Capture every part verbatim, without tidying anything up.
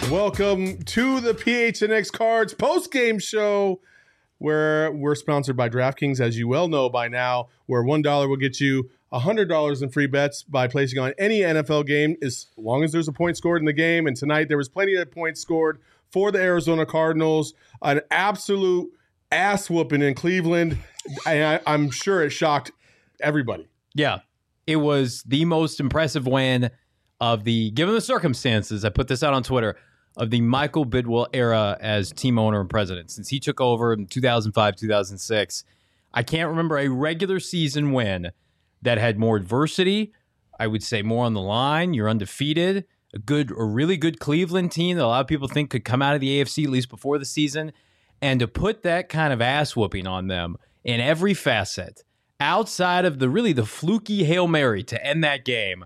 Welcome to the P H N X Cards post-game show, where we're sponsored by DraftKings, as you well know by now, where one dollar will get you one hundred dollars in free bets by placing on any N F L game as long as there's a point scored in the game. And tonight there was plenty of points scored for the Arizona Cardinals. An absolute ass whooping in Cleveland. I, I'm sure it shocked everybody. Yeah, it was the most impressive win of the, given the circumstances, I put this out on Twitter, of the Michael Bidwell era as team owner and president. Since he took over in two thousand five, two thousand six, I can't remember a regular season win that had more adversity. I would say more on the line. You're undefeated. A good, a really good Cleveland team that a lot of people think could come out of the A F C at least before the season. And to put that kind of ass whooping on them in every facet, outside of the really the fluky Hail Mary to end that game,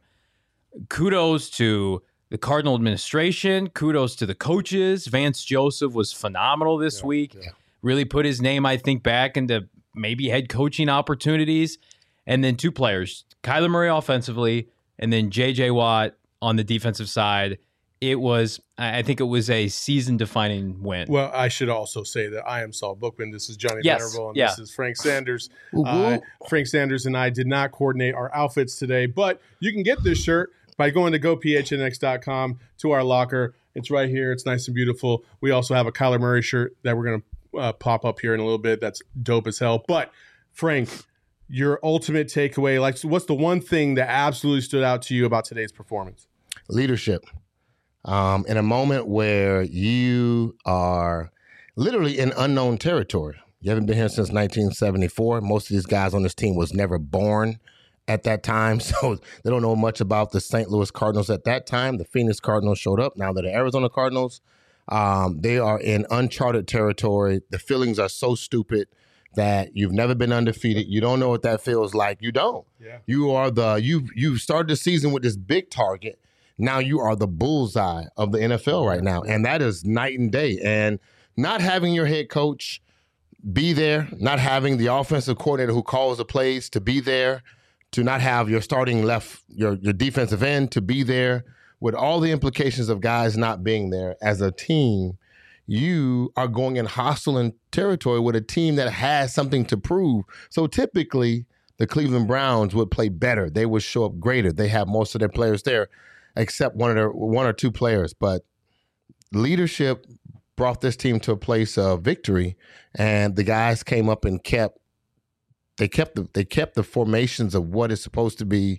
kudos to the Cardinal administration. Kudos to the coaches. Vance Joseph was phenomenal this yeah, week. Yeah. Really put his name, I think, back into maybe head coaching opportunities. And then two players, Kyler Murray offensively, and then J J Watt on the defensive side. It was, I think it was a season-defining win. Well, I should also say that I am Saul Bookman. This is Johnny yes, Venerable, and yeah. this is Frank Sanders. Uh, Frank Sanders and I did not coordinate our outfits today, but you can get this shirt by going to go P H N X dot com to our locker. It's right here. It's nice and beautiful. We also have a Kyler Murray shirt that we're going to uh, pop up here in a little bit. That's dope as hell. But, Frank, your ultimate takeaway, like, what's the one thing that absolutely stood out to you about today's performance? Leadership. Um, in a moment where you are literally in unknown territory. You haven't been here since nineteen seventy-four. Most of these guys on this team was never born at that time, so they don't know much about the Saint Louis Cardinals at that time. The Phoenix Cardinals showed up. Now they're the Arizona Cardinals. Um, they are in uncharted territory. The feelings are so stupid that you've never been undefeated. You don't know what that feels like. You don't. Yeah. You are the you you started the season with this big target. Now you are the bullseye of the N F L right now, and that is night and day. And not having your head coach be there, not having the offensive coordinator who calls the plays to be there, to not have your starting left, your your defensive end to be there, with all the implications of guys not being there as a team, you are going in hostile territory with a team that has something to prove. So typically, the Cleveland Browns would play better. They would show up greater. They have most of their players there, except one of their one or two players. But leadership brought this team to a place of victory, and the guys came up and kept they kept the they kept the formations of what is supposed to be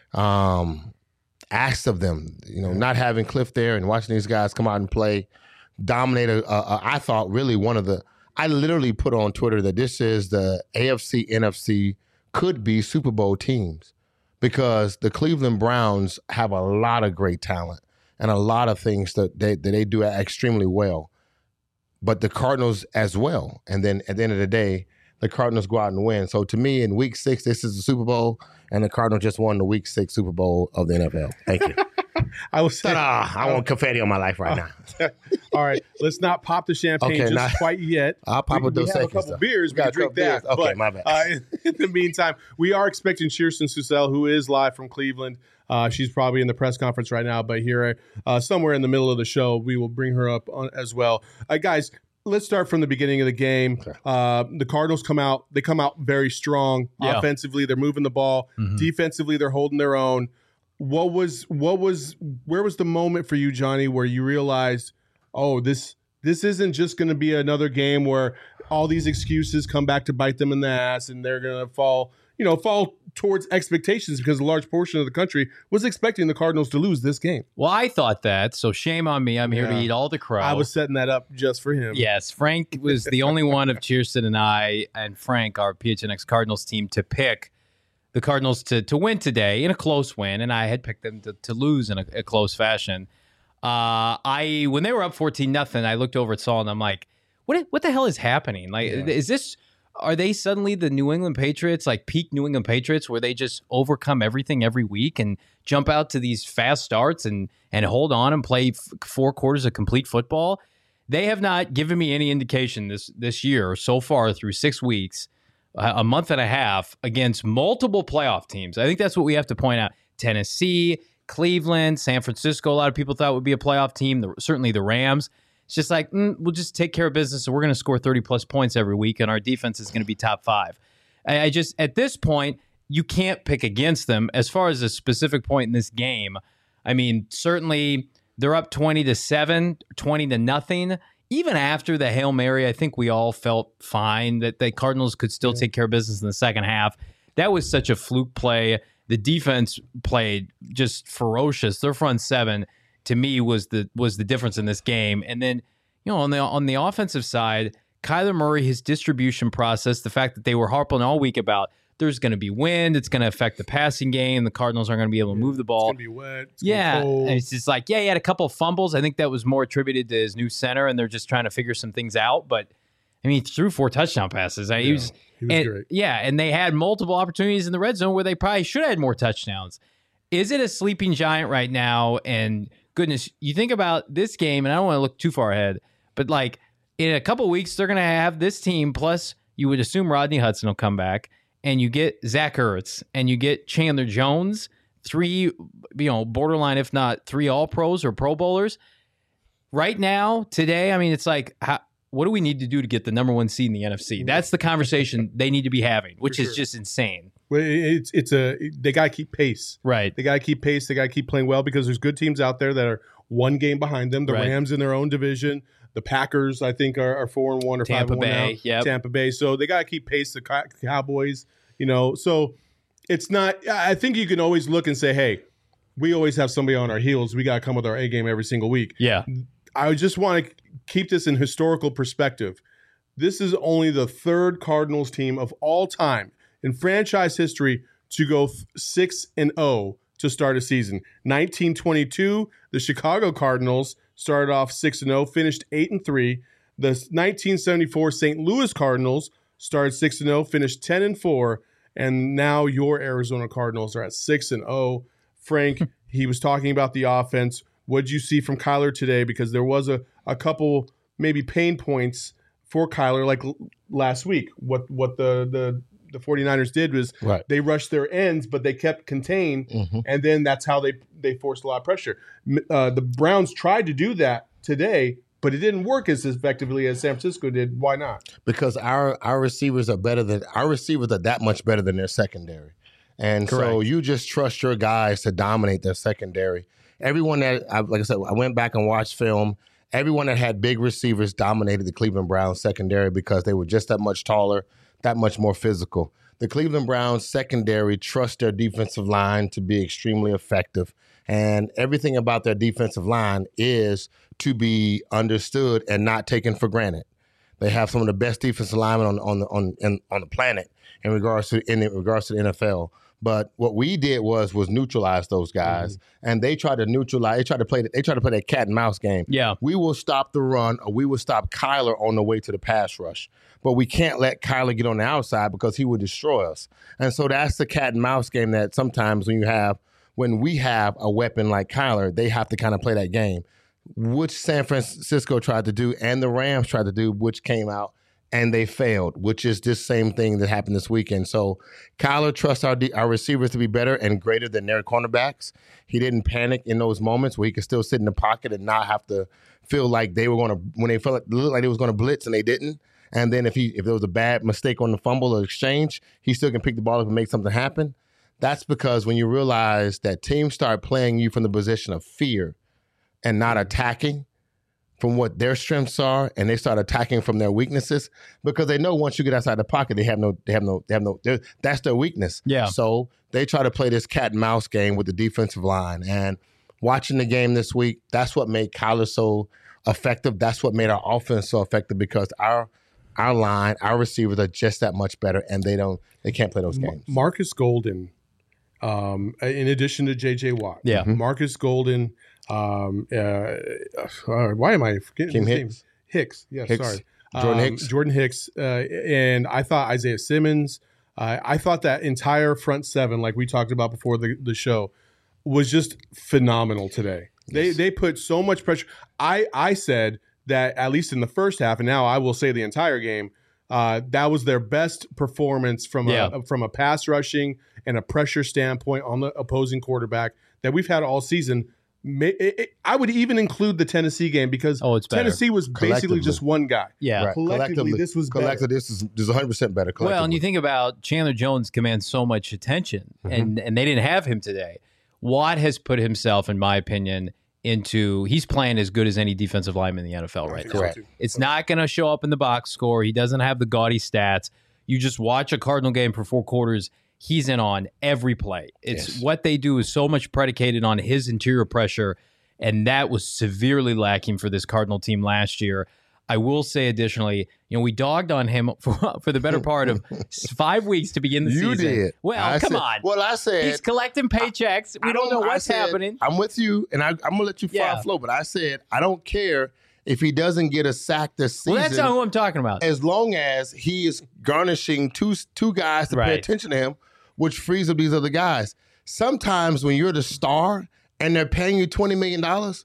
um, asked of them. You know, not having Cliff there and watching these guys come out and play, dominate. A, a, a, I thought really one of the. I literally put on Twitter that this is the A F C, N F C could be Super Bowl teams, because the Cleveland Browns have a lot of great talent and a lot of things that they, that they do extremely well, but the Cardinals as well. And then at the end of the day, the Cardinals go out and win. So to me, in week six, this is the Super Bowl, and the Cardinals just won the week six Super Bowl of the N F L. Thank you. I was saying, Ta-da! I want confetti on my life right now. All right, let's not pop the champagne okay, just not, quite yet. I'll pop we, it those we have seconds. a couple though. beers. We, we can drink that. Beers. Okay, but, my bad. Uh, in, in the meantime, we are expecting Kirsten Susel, who is live from Cleveland. Uh, she's probably in the press conference right now, but here, uh, somewhere in the middle of the show, we will bring her up on, as well. Uh, guys, let's start from the beginning of the game. Okay. Uh, the Cardinals come out. They come out very strong. Yeah. Offensively, they're moving the ball. Mm-hmm. Defensively, they're holding their own. What was what was where was the moment for you, Johnny, where you realized, oh, this this isn't just going to be another game where all these excuses come back to bite them in the ass and they're going to fall, you know, fall towards expectations, because a large portion of the country was expecting the Cardinals to lose this game. Well, I thought that, so shame on me. I'm here yeah. to eat all the crow. I was setting that up just for him. Yes, Frank was the only one of Kirsten and I and Frank, our P H N X Cardinals team, to pick the Cardinals to to win today in a close win, and I had picked them to, to lose in a, a close fashion. Uh, I when they were up fourteen nothing, I looked over at Saul and I'm like, what what the hell is happening? Like, yeah. is this? Are they suddenly the New England Patriots, like peak New England Patriots, where they just overcome everything every week and jump out to these fast starts and and hold on and play f- four quarters of complete football? They have not given me any indication this this year so far through six weeks. A month and a half against multiple playoff teams. I think that's what we have to point out. Tennessee, Cleveland, San Francisco, a lot of people thought would be a playoff team. The, certainly the Rams. It's just like, mm, we'll just take care of business, and we're going to score thirty-plus points every week, and our defense is going to be top five. I, I just, at this point, you can't pick against them. As far as a specific point in this game, I mean, certainly they're up twenty to seven, twenty to nothing. Even after the Hail Mary, I think we all felt fine that the Cardinals could still yeah. take care of business in the second half. That was such a fluke play. The defense played just ferocious. Their front seven, to me, was the was the difference in this game. And then, you know, on the on the offensive side, Kyler Murray, his distribution process, the fact that they were harping all week about there's going to be wind, it's going to affect the passing game, the Cardinals aren't going to be able to move the ball. It's going to be wet. It's yeah, cold. And it's just like, yeah, he had a couple of fumbles. I think that was more attributed to his new center, and they're just trying to figure some things out. But I mean, he threw four touchdown passes. I, yeah, he was, he was and, great. Yeah, and they had multiple opportunities in the red zone where they probably should have had more touchdowns. Is it a sleeping giant right now? And goodness, you think about this game, and I don't want to look too far ahead, but like in a couple of weeks, they're going to have this team, plus you would assume Rodney Hudson will come back, and you get Zach Ertz, and you get Chandler Jones, three, you know, borderline, if not three All-Pros or Pro Bowlers. Right now, today, I mean, it's like, how, what do we need to do to get the number one seed in the N F C? That's the conversation they need to be having, which For is sure. just insane. Well, it's it's a they got to keep pace. Right. They got to keep pace. They got to keep playing well because there's good teams out there that are one game behind them. The Right. Rams in their own division. The Packers, I think, are, are four and one or Tampa five and one Bay, now. yep. Tampa Bay. So they got to keep pace. The Cow- Cowboys, you know. So it's not. I think you can always look and say, hey, we always have somebody on our heels. We got to come with our A game every single week. Yeah. I just want to keep this in historical perspective. This is only the third Cardinals team of all time in franchise history to go six and zero to start a season. nineteen twenty-two, the Chicago Cardinals started off six and zero, finished eight and three. The nineteen seventy-four Saint Louis Cardinals started six and zero, finished ten and four, and now your Arizona Cardinals are at six and zero. Frank, he was talking about the offense. What did you see from Kyler today? Because there was a, a couple maybe pain points for Kyler, like l- last week. What what the, the, the 49ers did was Right. they rushed their ends, but they kept contained, Mhm. and then that's how they, they forced a lot of pressure. M- Uh, the Browns tried to do that today, but it didn't work as effectively as San Francisco did. Why not? Because our our receivers are better than our receivers are that much better than their secondary. And so Correct. you just trust your guys to dominate their secondary. Everyone that, I, like I said, I went back and watched film. Everyone that had big receivers dominated the Cleveland Browns secondary because they were just that much taller, that much more physical. The Cleveland Browns secondary trust their defensive line to be extremely effective. And everything about their defensive line is to be understood and not taken for granted. They have some of the best defensive linemen on on the on in, on the planet in regards to in regards to the N F L. But what we did was was neutralize those guys, mm-hmm. and they tried to neutralize. They tried to play. They tried to play that cat and mouse game. Yeah, we will stop the run, or we will stop Kyler on the way to the pass rush. But we can't let Kyler get on the outside because he would destroy us. And so that's the cat and mouse game that sometimes when you have when we have a weapon like Kyler, they have to kind of play that game, which San Francisco tried to do, and the Rams tried to do, which came out. And they failed, which is this same thing that happened this weekend. So Kyler trusts our our receivers to be better and greater than their cornerbacks. He didn't panic in those moments where he could still sit in the pocket and not have to feel like they were going to, when they felt like, looked like they was going to blitz and they didn't. And then if he if there was a bad mistake on the fumble or exchange, he still can pick the ball up and make something happen. That's because when you realize that teams start playing you from the position of fear and not attacking from what their strengths are, and they start attacking from their weaknesses because they know once you get outside the pocket, they have no, they have no, they have no. That's their weakness. Yeah. So they try to play this cat and mouse game with the defensive line. And watching the game this week, that's what made Kyler so effective. That's what made our offense so effective because our our line, our receivers are just that much better, and they don't, they can't play those games. Marcus Golden, um, in addition to J J Watt, Yeah. Marcus Golden. Um, uh, uh, why am I forgetting Kim his Hicks? name? Hicks. Yeah, Hicks. sorry. Jordan Um, Hicks. Jordan Hicks. Uh, and I thought Isaiah Simmons, uh, I thought that entire front seven, like we talked about before the, the show, was just phenomenal today. They Yes. they put so much pressure. I, I said that at least in the first half, and now I will say the entire game, uh, that was their best performance from Yeah. a from a pass rushing and a pressure standpoint on the opposing quarterback. that we've had all season. May, it, it, I would even include the Tennessee game because oh, it's better. Tennessee was basically just one guy. Yeah. Right. Collectively, Collectively, this was better. collectively, this is this is one hundred percent better. Well, and you think about Chandler Jones commands so much attention, mm-hmm. and and they didn't have him today. Watt has put himself, in my opinion, into he's playing as good as any defensive lineman in the N F L right now. Correct. It's not going to show up in the box score. He doesn't have the gaudy stats. You just watch a Cardinal game for four quarters. He's in on every play. It's yes. what they do is so much predicated on his interior pressure, and that was severely lacking for this Cardinal team last year. I will say additionally, you know, we dogged on him for, for the better part of five weeks to begin the you season. You did. Well, I come said, on. Well, I said. He's collecting paychecks. I, we I don't, don't know what's said, happening. I'm with you, and I, I'm going to let you fly yeah. flow, but I said, I don't care if he doesn't get a sack this season. Well, that's not who I'm talking about. As long as he is garnishing two, two guys to right. pay attention to him, which frees up these other guys. Sometimes when you're the star and they're paying you twenty million dollars,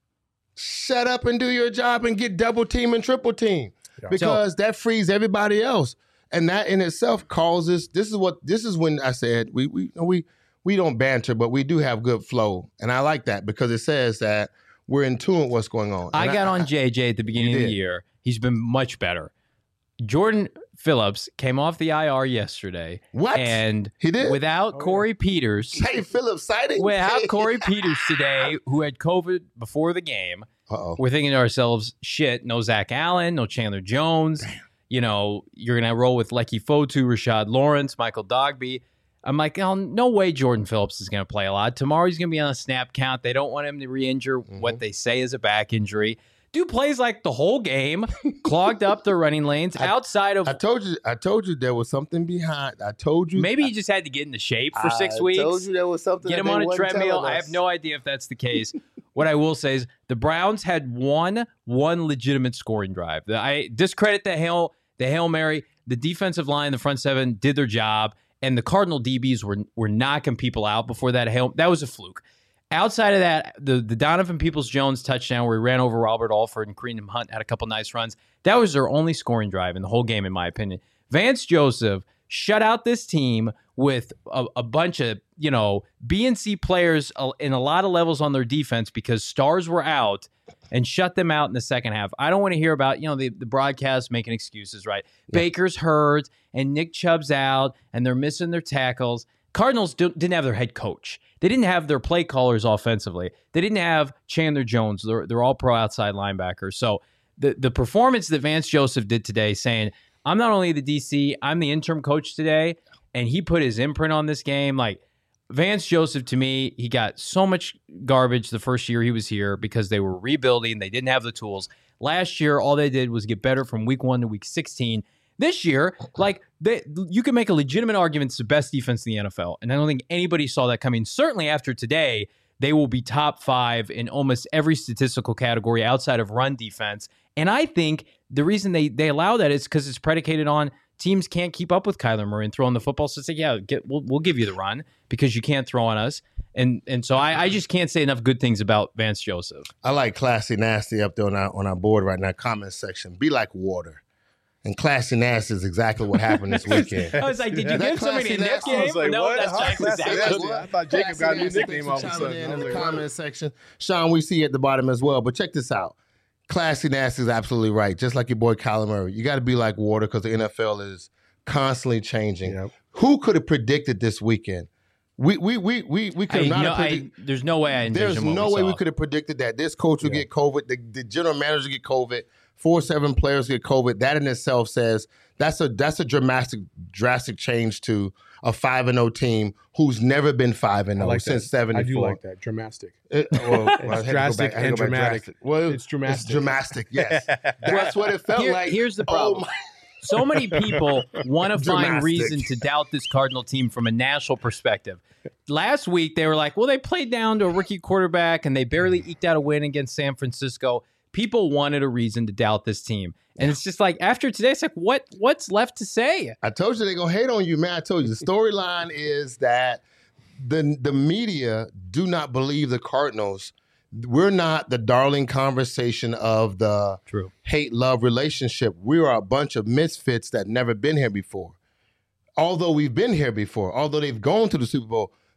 shut up and do your job and get double team and triple team yeah. because so, that frees everybody else. And that in itself causes, this is what, this is when I said, we we we we don't banter, but we do have good flow. And I like that because it says that we're in tune with what's going on. I and got I, on J J at the beginning of the year. He's been much better. Jordan Phillips came off the I R yesterday. What? And he did? without oh, Corey yeah. Peters. Hey, Phillips sighting. Without Corey Peters today, who had COVID before the game. Uh-oh. We're thinking to ourselves, shit, no Zach Allen, no Chandler Jones. Damn. You know, you're going to roll with Lecky Fotu, Rashad Lawrence, Michael Dogby. I'm like, oh, no way Jordan Phillips is going to play a lot. Tomorrow he's going to be on a snap count. They don't want him to re-injure mm-hmm. what they say is a back injury. Dude plays like the whole game, clogged up the running lanes I, outside of. I told you, I told you there was something behind. I told you. Maybe I, he just had to get into shape for six I weeks. I told you there was something. Get him on a treadmill. I have no idea if that's the case. What I will say is the Browns had one one legitimate scoring drive. I discredit the Hail the Hail Mary. The defensive line, the front seven did their job, and the Cardinal D Bs were were knocking people out before that Hail. That was a fluke. Outside of that, the, the Donovan Peoples-Jones touchdown where he ran over Robert Alford and Kareem Hunt had a couple nice runs. That was their only scoring drive in the whole game, in my opinion. Vance Joseph shut out this team with a, a bunch of, you know, B and C players in a lot of levels on their defense because stars were out and shut them out in the second half. I don't want to hear about, you know, the, the broadcast making excuses, right? Yeah. Baker's hurt and Nick Chubb's out and they're missing their tackles. Cardinals didn't have their head coach. They didn't have their play callers offensively. They didn't have Chandler Jones. They're, they're all pro outside linebackers. So the, the performance that Vance Joseph did today saying, I'm not only the D C, I'm the interim coach today, and he put his imprint on this game. Like, Vance Joseph, to me, he got so much garbage the first year he was here because they were rebuilding. They didn't have the tools. Last year, all they did was get better from week one to week sixteen. This year, like, they, you can make a legitimate argument it's the best defense in the N F L, and I don't think anybody saw that coming. Certainly after today, they will be top five in almost every statistical category outside of run defense. And I think the reason they, they allow that is because it's predicated on teams can't keep up with Kyler Murray and throwing the football. So it's like, yeah, get, we'll, we'll give you the run because you can't throw on us. And and so I, I just can't say enough good things about Vance Joseph. I like Classy Nasty up there on our, on our board right now, comment section. Be like water. And Classy Nasty is exactly what happened this weekend. I was like, did you give somebody a nickname? I was like, no, what? that's Huh? exactly That's what I thought Jacob got a new nickname all of a sudden. In, in in the like, comment section. Sean, we see you at the bottom as well. But check this out. Classy Nasty is absolutely right. Just like your boy Kyler Murray. You got to be like water because the N F L is constantly changing. Yep. Who could have predicted this weekend? We we we we we could not no, have predicted. I, there's no way I There's no we way saw. we could have predicted that this coach would yeah. get COVID, the, the general manager get COVID, four seven players get COVID. That in itself says that's a that's a dramatic drastic change to a five and zero team who's never been five and zero like since seventy-four. I do like that. Dramatic. It, well, well, it's drastic and dramatic. drastic. Well, it's dramatic. It's dramatic. Yes, that's what it felt Here, like. Here's the problem. Oh so many people want to find reason to doubt this Cardinal team from a national perspective. Last week, they were like, well, they played down to a rookie quarterback and they barely eked out a win against San Francisco. People wanted a reason to doubt this team. And yeah. it's just like, after today, it's like, what? what's left to say? I told you they're going to hate on you, man. I told you. The storyline is that the, the media do not believe the Cardinals. We're not the darling conversation of the True. hate-love relationship. We are a bunch of misfits that never been here before. Although we've been here before, although they've gone to the Super Bowl,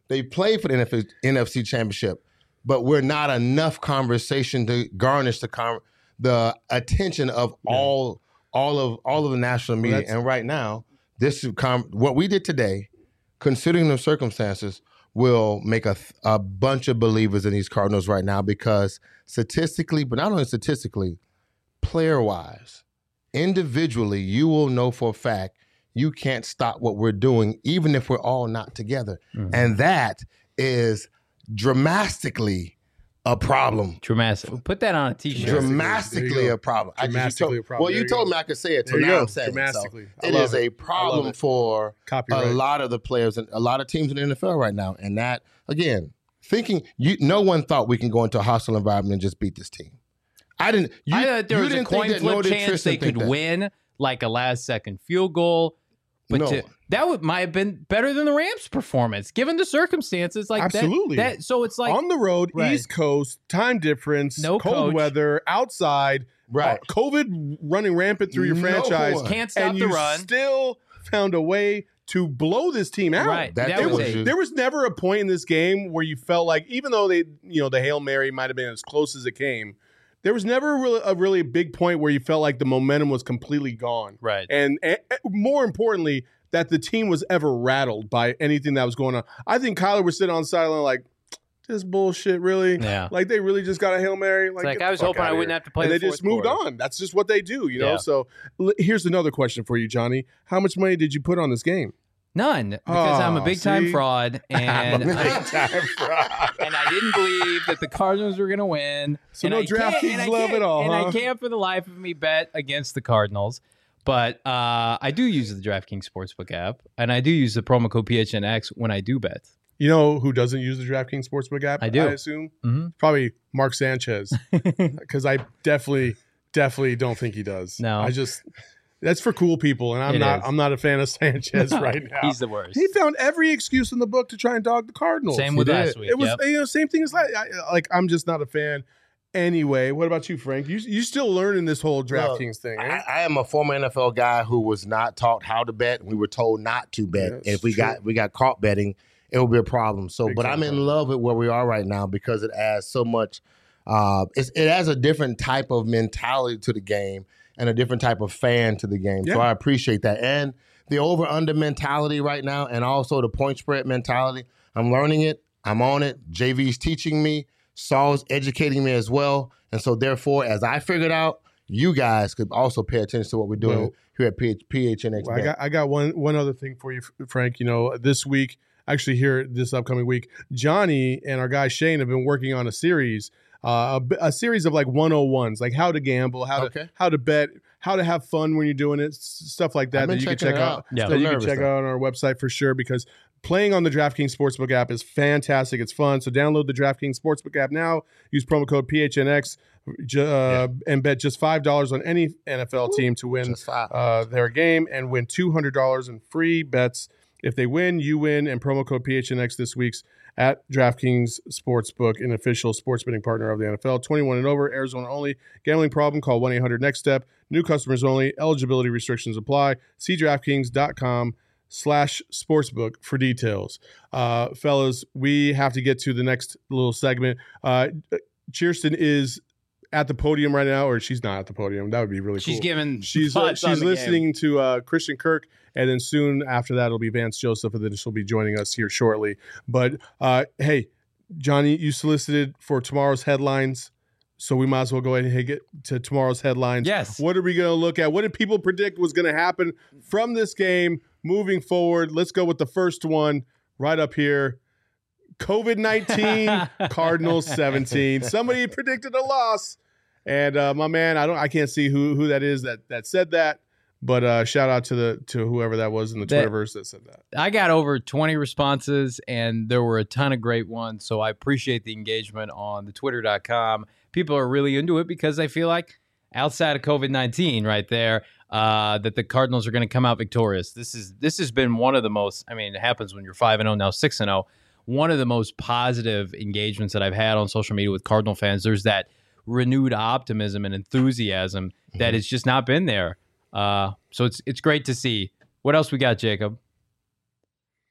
They played for the N F C Championship, but we're not enough conversation to garnish the con- the attention of Yeah. all all of all of the national media. Well, and right now, this is com- what we did today, considering the circumstances, will make a, a bunch of believers in these Cardinals right now because statistically, but not only statistically, player-wise, individually, you will know for a fact you can't stop what we're doing, even if we're all not together. Mhm. And that is dramatically a problem. Dramatic. Put that on a t-shirt. Dramatic. Dramatically There you go. a problem. I just- you Dramatically told- a problem. Well, There you you told go. me I could say it, so There you now go. I'm saying it. So Dramatically. I it love is it. a I love problem it. for Copyright. a lot of the players and a lot of teams in the N F L right now. And that, again, thinking you, no one thought we can go into a hostile environment and just beat this team. I didn't. You, I thought there you was a didn't think coin that, flip nor did chance Tristan they think could that. win, like a last second field goal. But No. to, that would might have been better than the Rams' performance, given the circumstances. Like that- Absolutely. That, so it's like on the road, Right. East Coast, time difference, No cold coach. weather, outside, Right. uh, COVID running rampant through your No franchise. one. can't stop and the you run. still found a way to blow this team out. Right. That That, there was was a, a- There was never a point in this game where you felt like, even though they, you know, the Hail Mary might have been as close as it came, there was never a really, a really big point where you felt like the momentum was completely gone. right. And, and more importantly, that the team was ever rattled by anything that was going on. I think Kyler was sitting on the sideline like, this bullshit, really? Yeah. Like, they really just got a Hail Mary? Like, It's like get I the was fuck hoping I outta wouldn't here. have to play And the they just fourth moved quarter. on. That's just what they do, you know? Yeah. So l- here's another question for you, Johnny. How much money did you put on this game? None, because I'm a Oh, big time see? fraud, and I, time fraud. and I didn't believe that the Cardinals were going to win. So and no I can't- DraftKings and I love can't- at all, And huh? I can't for the life of me bet against the Cardinals. But uh, I do use the DraftKings Sportsbook app, and I do use the promo code P H N X when I do bet. You know who doesn't use the DraftKings Sportsbook app? I do. I assume Mm-hmm. probably Mark Sanchez, because I definitely, definitely don't think he does. No. I just that's for cool people, and I'm It not. is. I'm not a fan of Sanchez right now. He's the worst. He found every excuse in the book to try and dog the Cardinals. Same He with did. last week. It was yep. you know same thing as like I, like I'm just not a fan. Anyway, what about you, Frank? You you still learning this whole DraftKings thing? I, Eh? I am a former N F L guy who was not taught how to bet. We were told not to bet. Yeah, and if it's we true. got we got caught betting, it would be a problem. So, Big but time I'm in problem. love with where we are right now because it adds so much. Uh, it's, it adds a different type of mentality to the game and a different type of fan to the game. So Yeah. I appreciate that. And the over under mentality right now, and also the point spread mentality. I'm learning it. I'm on it. J V's teaching me. Saul's educating me as well. And so, therefore, as I figured out, you guys could also pay attention to what we're doing Well- here at P H- P H N X. Well, I got I got one one other thing for you, Frank. You know, this week, actually here this upcoming week, Johnny and our guy Shane have been working on a series, uh, a, a series of like one oh ones, like how to gamble, how to Okay. how to bet, how to have fun when you're doing it, s- stuff like that I've been that you can checking check it out. out. Yeah. that you can Nervous, check though. out on our website for sure because playing on the DraftKings Sportsbook app is fantastic. It's fun. So download the DraftKings Sportsbook app now. Use promo code P H N X ju- uh, and bet just five dollars on any N F L team to win Just five. uh, their game and win two hundred dollars in free bets. If they win, you win. And promo code P H N X this week's at DraftKings Sportsbook, an official sports betting partner of the N F L. twenty-one and over, Arizona only. Gambling problem? Call one eight hundred next step. New customers only. Eligibility restrictions apply. See DraftKings.com slash sportsbook for details. Uh, fellas, we have to get to the next little segment. Uh, Kirsten is at the podium right now, or she's not at the podium. That would be really She's cool. giving. She's uh, thoughts on she's the game. listening to uh, Christian Kirk, and then soon after that it'll be Vance Joseph, and then she'll be joining us here shortly. But uh, hey, Johnny, you solicited for tomorrow's headlines, so we might as well go ahead and get to tomorrow's headlines. Yes. What are we going to look at? What did people predict was going to happen from this game moving forward? Let's go with the first one right up here. COVID nineteen, Cardinals seventeen. Somebody predicted a loss. And uh, my man, I don't, I can't see who who that is that that said that, but uh, shout out to the to whoever that was in the That- Twitterverse that said that. I got over twenty responses, and there were a ton of great ones. So I appreciate the engagement on the twitter dot com. People are really into it because I feel like outside of COVID nineteen right there, uh, that the Cardinals are going to come out victorious. This is this has been one of the most, I mean, it happens when you're five and oh, now six and oh. One of the most positive engagements that I've had on social media with Cardinal fans. There's that renewed optimism and enthusiasm that has just not been there. Uh, so it's it's great to see. What else we got, Jacob?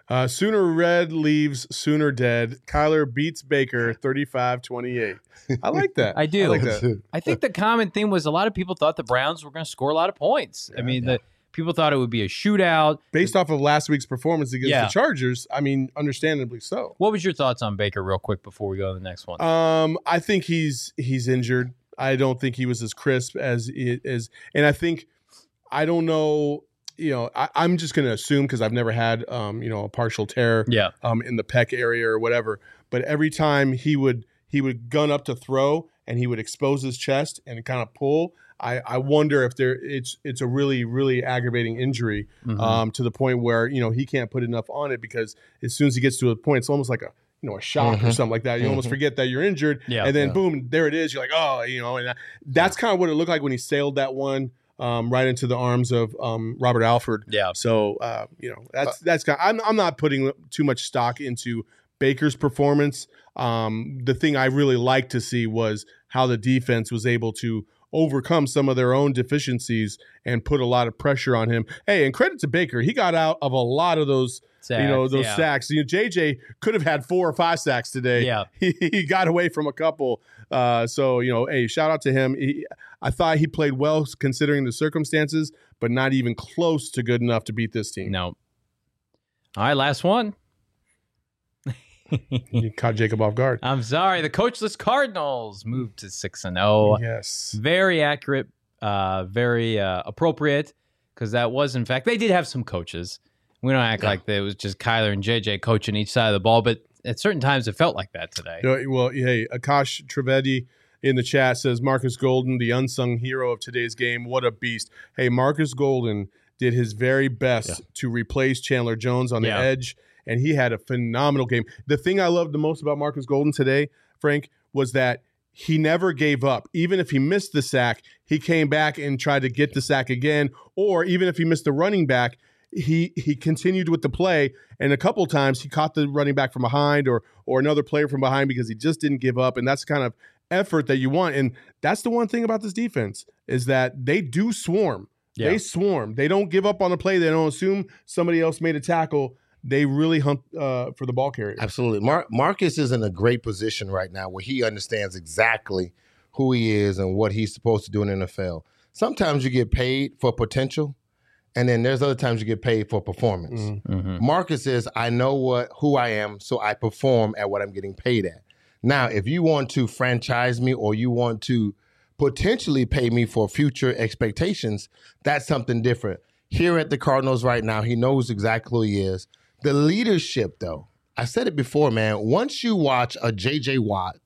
Uh, Sooner Red leaves Sooner dead. Kyler beats Baker thirty-five twenty-eight. I like that. I do. I like that. I think the common theme was a lot of people thought the Browns were going to score a lot of points. Yeah, I mean, yeah. the people thought it would be a shootout. Based off of last week's performance against Yeah. the Chargers, I mean, understandably so. What was your thoughts on Baker, real quick, before we go to the next one? Um, I think he's he's injured. I don't think he was as crisp as it is, and I think I don't know. You know, I, I'm just going to assume because I've never had, um, you know, a partial tear, yeah. um, in the pec area or whatever. But every time he would he would gun up to throw and he would expose his chest and kind of pull. I, I wonder if there it's it's a really really aggravating injury, Mhm. um, to the point where you know he can't put enough on it because as soon as he gets to a point, it's almost like a you know a shock or Mhm. something like that. You almost Mhm. forget that you're injured, Yeah. and then Yeah. boom, there it is. You're like, oh, you know, and that's kind of what it looked like when he sailed that one. Um, right into the arms of um, Robert Alford. Yeah. So uh, you know that's that's kind. Of, I'm I'm not putting too much stock into Baker's performance. Um, the thing I really liked to see was how the defense was able to overcome some of their own deficiencies and put a lot of pressure on him. Hey, and credit to Baker, he got out of a lot of those. Sacks, you know those yeah. sacks. You know, J J could have had four or five sacks today. Yeah. he, he got away from a couple. Uh, so you know, hey, shout out to him. He, I thought he played well considering the circumstances, but not even close to good enough to beat this team. No. All right, last one. You caught Jacob off guard. I'm sorry. The coachless Cardinals moved to six and zero. Yes. Very accurate, uh, very uh, appropriate, because that was, in fact, they did have some coaches. We don't act Yeah. like it was just Kyler and J J coaching each side of the ball, but at certain times it felt like that today. You know, well, hey, Akash Trivedi in the chat says Marcus Golden, the unsung hero of today's game. What a beast. Hey, Marcus Golden did his very best Yeah. to replace Chandler Jones on the Yeah. edge, and he had a phenomenal game. The thing I loved the most about Marcus Golden today, Frank, was that he never gave up. Even if he missed the sack, he came back and tried to get the sack again, or even if he missed the running back, he he continued with the play, and a couple times he caught the running back from behind or or another player from behind because he just didn't give up, and that's the kind of effort that you want. And that's the one thing about this defense is that they do swarm. Yeah. They swarm. They don't give up on the play. They don't assume somebody else made a tackle. They really hunt uh, for the ball carrier. Absolutely. Mar- Marcus is in a great position right now where he understands exactly who he is and what he's supposed to do in the N F L. Sometimes you get paid for potential, and then there's other times you get paid for performance. Mhm. Mhm. Marcus says, I know what who I am, so I perform at what I'm getting paid at. Now, if you want to franchise me or you want to potentially pay me for future expectations, that's something different. Here at the Cardinals right now, he knows exactly who he is. The leadership, though, I said it before, man. Once you watch a J J Watt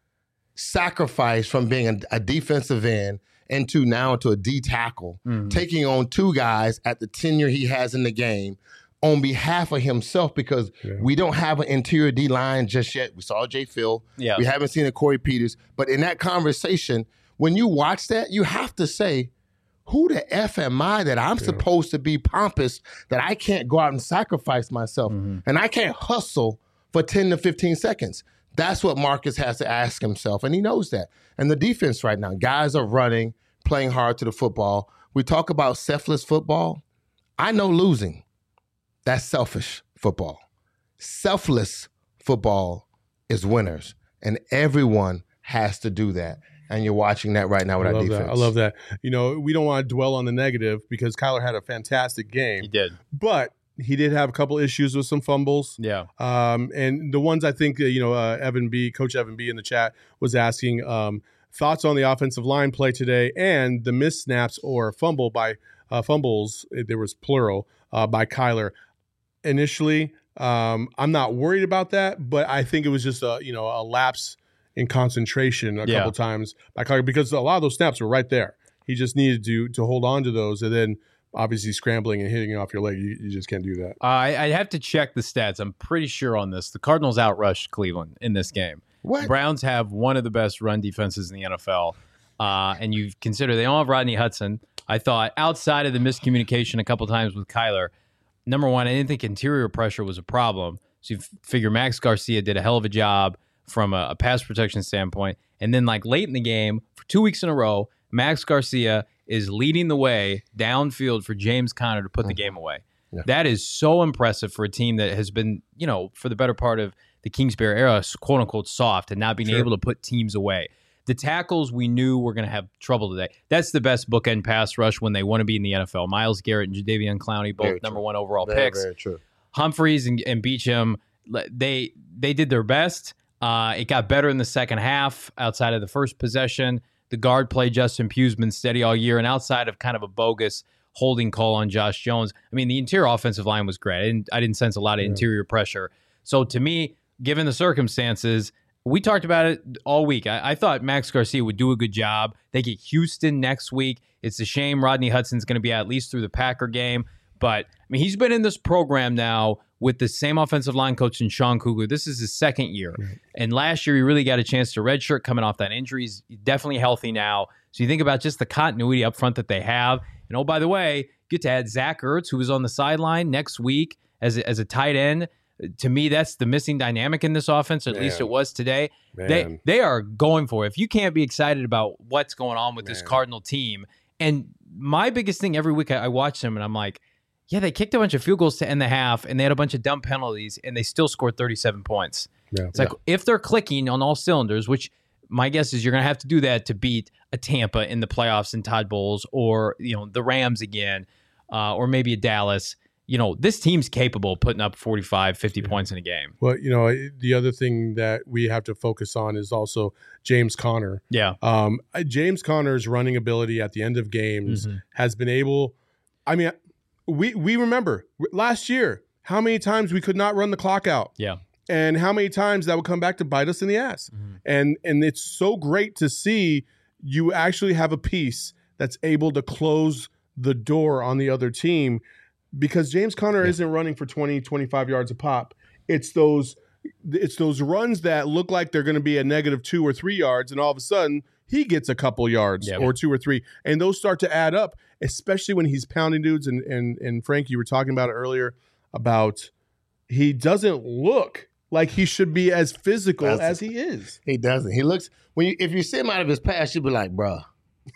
sacrifice from being a, a defensive end into now into a D tackle, Mhm. taking on two guys at the tenure he has in the game on behalf of himself, because Yeah. we don't have an interior D line just yet. We saw Jay Phil. Yeah. We haven't seen a Corey Peters. But in that conversation, when you watch that, you have to say, who the F am I that I'm supposed to be pompous, that I can't go out and sacrifice myself Mhm. and I can't hustle for ten to fifteen seconds? That's what Marcus has to ask himself, and he knows that. And the defense right now, guys are running, playing hard to the football. We talk about selfless football. I know losing. That's selfish football. Selfless football is winners, and everyone has to do that. And you're watching that right now with I our love defense. that. I love that. You know, we don't want to dwell on the negative because Kyler had a fantastic game, He did. but he did have a couple issues with some fumbles. Yeah. Um, and the ones I think, uh, you know, uh, Evan B, Coach Evan B in the chat was asking um, thoughts on the offensive line play today and the missed snaps or fumble by uh, fumbles, there was plural, uh, by Kyler. Initially, um, I'm not worried about that, but I think it was just a, you know, a lapse in concentration a Yeah. couple times by Kyler because a lot of those snaps were right there. He just needed to to hold on to those, and then obviously scrambling and hitting it off your leg, you, you just can't do that. I I have to check the stats. I'm pretty sure on this. The Cardinals outrushed Cleveland in this game. What? Browns have one of the best run defenses in the N F L. Uh, and you consider they don't have Rodney Hudson. I thought outside of the miscommunication a couple times with Kyler, number one, I didn't think interior pressure was a problem. So you f- figure Max Garcia did a hell of a job from a, a pass protection standpoint. And then like late in the game, for two weeks in a row, Max Garcia is leading the way downfield for James Conner to put the game away. Yeah. That is so impressive for a team that has been, you know, for the better part of the Kingsbury era, quote unquote, soft and not being Sure. able to put teams away. The tackles we knew were going to have trouble today. That's the best bookend pass rush when they want to be in the N F L. Myles Garrett and Jadeveon Clowney, both Very number true. one overall Very, picks. very true. Humphreys and, and Beachum, they they did their best. Uh, it got better in the second half outside of the first possession. The guard play, Justin Pugh's been steady all year, and outside of kind of a bogus holding call on Josh Jones, I mean, the interior offensive line was great. I didn't, I didn't sense a lot of Yeah. interior pressure. So to me, given the circumstances, we talked about it all week. I, I thought Max Garcia would do a good job. They get Houston next week. It's a shame Rodney Hudson's going to be out at least through the Packer game. But, I mean, he's been in this program now with the same offensive line coach in Sean Kugler. This is his second year. Right. And last year, he really got a chance to redshirt coming off that injury. He's definitely healthy now. So you think about just the continuity up front that they have. And, oh, by the way, get to add Zach Ertz, who was on the sideline next week as a, as a tight end. To me, that's the missing dynamic in this offense, or at Man. least it was today. Man. They they are going for it. If you can't be excited about what's going on with this Man. Cardinal team, and my biggest thing every week I, I watch them and I'm like, yeah, they kicked a bunch of field goals to end the half, and they had a bunch of dumb penalties, and they still scored thirty-seven points. Yeah. It's like if they're clicking on all cylinders, which my guess is you're going to have to do that to beat a Tampa in the playoffs and Todd Bowles, or you know the Rams again, uh, or maybe a Dallas. You know, this team's capable of putting up forty-five, fifty Yeah. points in a game. Well, you know, the other thing that we have to focus on is also James Conner. Yeah. Um, James Conner's running ability at the end of games Mhm. has been able. I mean, we we remember last year how many times we could not run the clock out. Yeah. And how many times that would come back to bite us in the ass. Mhm. And and it's so great to see you actually have a piece that's able to close the door on the other team, because James Conner Yeah. isn't running for twenty, twenty-five yards a pop. It's those it's those runs that look like they're going to be a negative two or three yards, and all of a sudden he gets a couple yards Yeah. or two or three, and those start to add up, especially when he's pounding dudes. And and and Frank, you were talking about it earlier about he doesn't look like he should be as physical That's- as he is. He doesn't. He looks when you if you see him out of his past, you'd be like, bruh,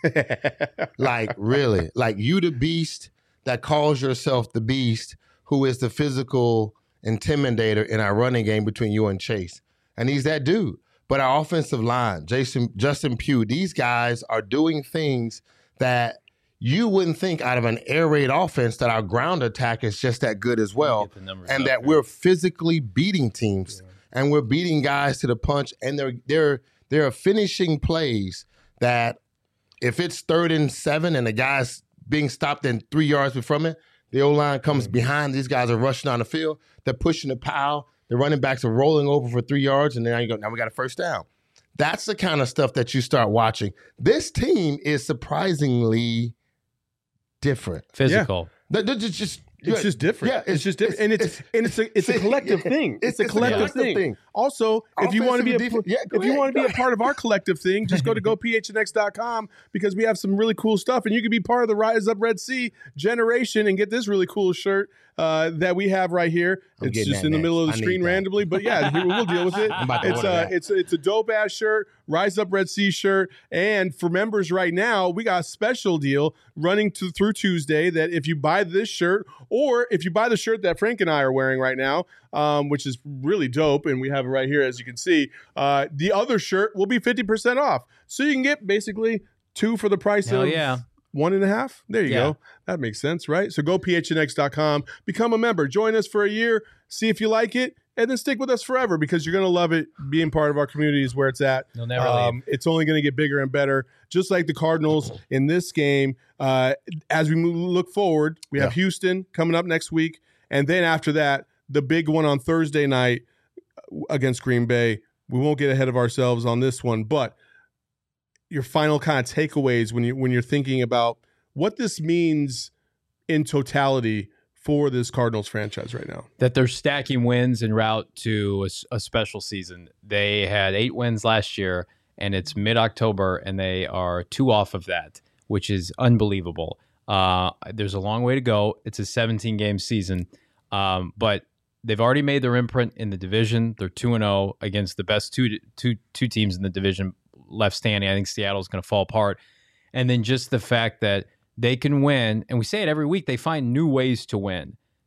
like really, like you the beast that calls yourself the beast, who is the physical intimidator in our running game between you and Chase, and he's that dude. But our offensive line, Jason, Justin Pugh, these guys are doing things that you wouldn't think out of an air raid offense that our ground attack is just that good as well, Get the numbers and up that here. we're physically beating teams and we're beating guys to the punch, and they're they're they're finishing plays that if it's third and seven and the guy's being stopped in three yards from it, the O-line comes behind. These guys are rushing on the field. They're pushing the pile. The running backs are rolling over for three yards, and then now you go. Now we got a first down. That's the kind of stuff that you start watching. This team is surprisingly different. Physical. They're, they're just, just It's just different. Yeah, it's, just different, and it's, and it's a it's a collective thing. It's, a collective, thing. Also, if you want to be a Offensive, defense- yeah, go if you ahead, want to go be a part of our collective thing, just go to go p h n x dot com, because we have some really cool stuff, and you can be part of the Rise Up Red Sea generation and get this really cool shirt uh, that we have right here. I'm It's getting just that in the next. middle of the I need screen that. randomly, but yeah, we- we'll deal with it. I'm about to It's order a that. it's a, it's a dope ass shirt, Rise Up Red Sea shirt, and for members right now, we got a special deal running to, through Tuesday that if you buy this shirt, or if you buy the shirt that Frank and I are wearing right now, um, which is really dope, and we have it right here as you can see, uh, the other shirt will be fifty percent off, so you can get basically two for the price Hell of yeah. one and a half. There you Yeah. go. That makes sense, right? So go p h n x dot com, become a member, join us for a year, see if you like it, and then stick with us forever, because you're going to love it. Being part of our community is where it's at. You'll never Um, it's only going to get bigger and better, just like the Cardinals in this game. Uh, as we move, look forward, we have Yeah. Houston coming up next week, and then after that, the big one on Thursday night against Green Bay. We won't get ahead of ourselves on this one, but your final kind of takeaways when you when you're thinking about what this means in totality for this Cardinals franchise right now. That they're stacking wins en route to a, s- a special season. They had eight wins last year, and it's mid-October, and they are two off of that, which is unbelievable. Uh, there's a long way to go. It's a seventeen-game season, um, but they've already made their imprint in the division. They're two and zero against the best two two two teams in the division left standing. I think Seattle's going to fall apart, and then just the fact that they can win, and we say it every week, they find new ways to win.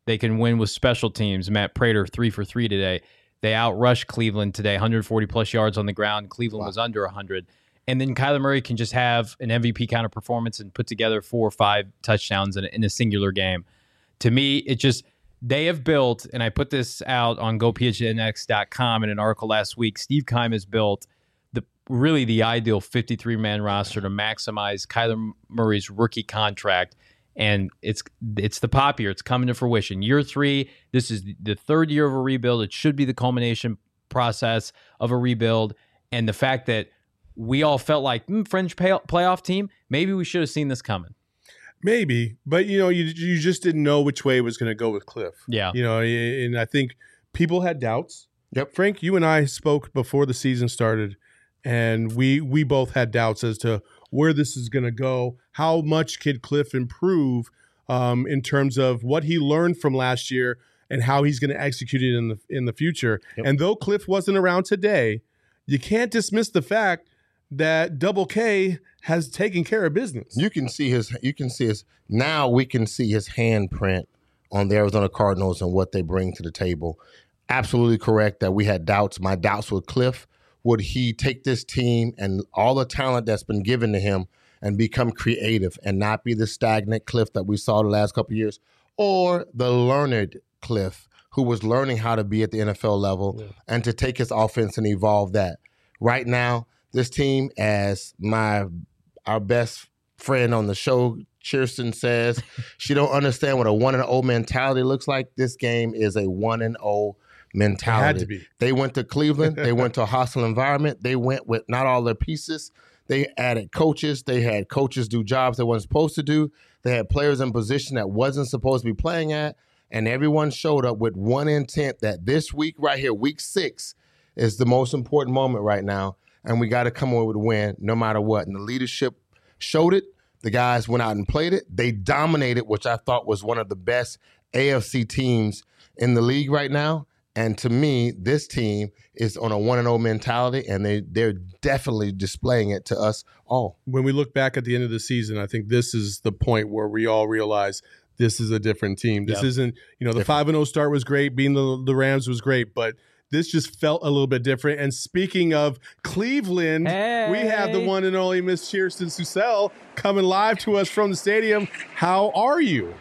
They can win with special teams. Matt Prater, three for three today. They outrushed Cleveland today, one hundred forty plus yards on the ground. Cleveland wow. was under one hundred. And then Kyler Murray can just have an M V P kind of performance and put together four or five touchdowns in a, in a singular game. To me, it just, they have built, and I put this out on go p h n x dot com in an article last week, Steve Keim has built the really the ideal fifty-three man roster to maximize Kyler Murray's rookie contract. And it's it's the pop year. It's coming to fruition. Year three, this is the third year of a rebuild. It should be the culmination process of a rebuild. And the fact that we all felt like, mm, fringe pay- playoff team, maybe we should have seen this coming. Maybe. But, you know, you you just didn't know which way it was going to go with Cliff. Yeah. You know, and I think people had doubts. Yep. Frank, you and I spoke before the season started, and we we both had doubts as to where this is going to go, how much could Cliff improve um, in terms of what he learned from last year and how he's going to execute it in the in the future. Yep. And though Cliff wasn't around today, you can't dismiss the fact that Double K has taken care of business. You can see his. You can see his. Now we can see his handprint on the Arizona Cardinals and what they bring to the table. Absolutely correct that we had doubts. My doubts with Cliff. Would he take this team and all the talent that's been given to him and become creative and not be the stagnant Cliff that we saw the last couple of years, or the learned Cliff who was learning how to be at the N F L level yeah. and to take his offense and evolve that? Right now, this team, as my our best friend on the show, Kirsten, says, she don't understand what a one and oh mentality looks like. This game is a one and oh mentality. It had to be. They went to Cleveland. They went to a hostile environment. They went with not all their pieces. They added coaches. They had coaches do jobs they weren't supposed to do. They had players in position that wasn't supposed to be playing at. And everyone showed up with one intent that this week right here, week six, is the most important moment right now. And we got to come away with a win no matter what. And the leadership showed it. The guys went out and played it. They dominated, which I thought was one of the best A F C teams in the league right now. And to me, this team is on a one and oh mentality, and they, they're definitely displaying it to us all. When we look back at the end of the season, I think this is the point where we all realize this is a different team. This yep. isn't, you know, the five and oh start was great. Beating the, the Rams was great, but this just felt a little bit different. And speaking of Cleveland, hey. we have the one and only Miss Kirsten Susel coming live to us from the stadium. How are you?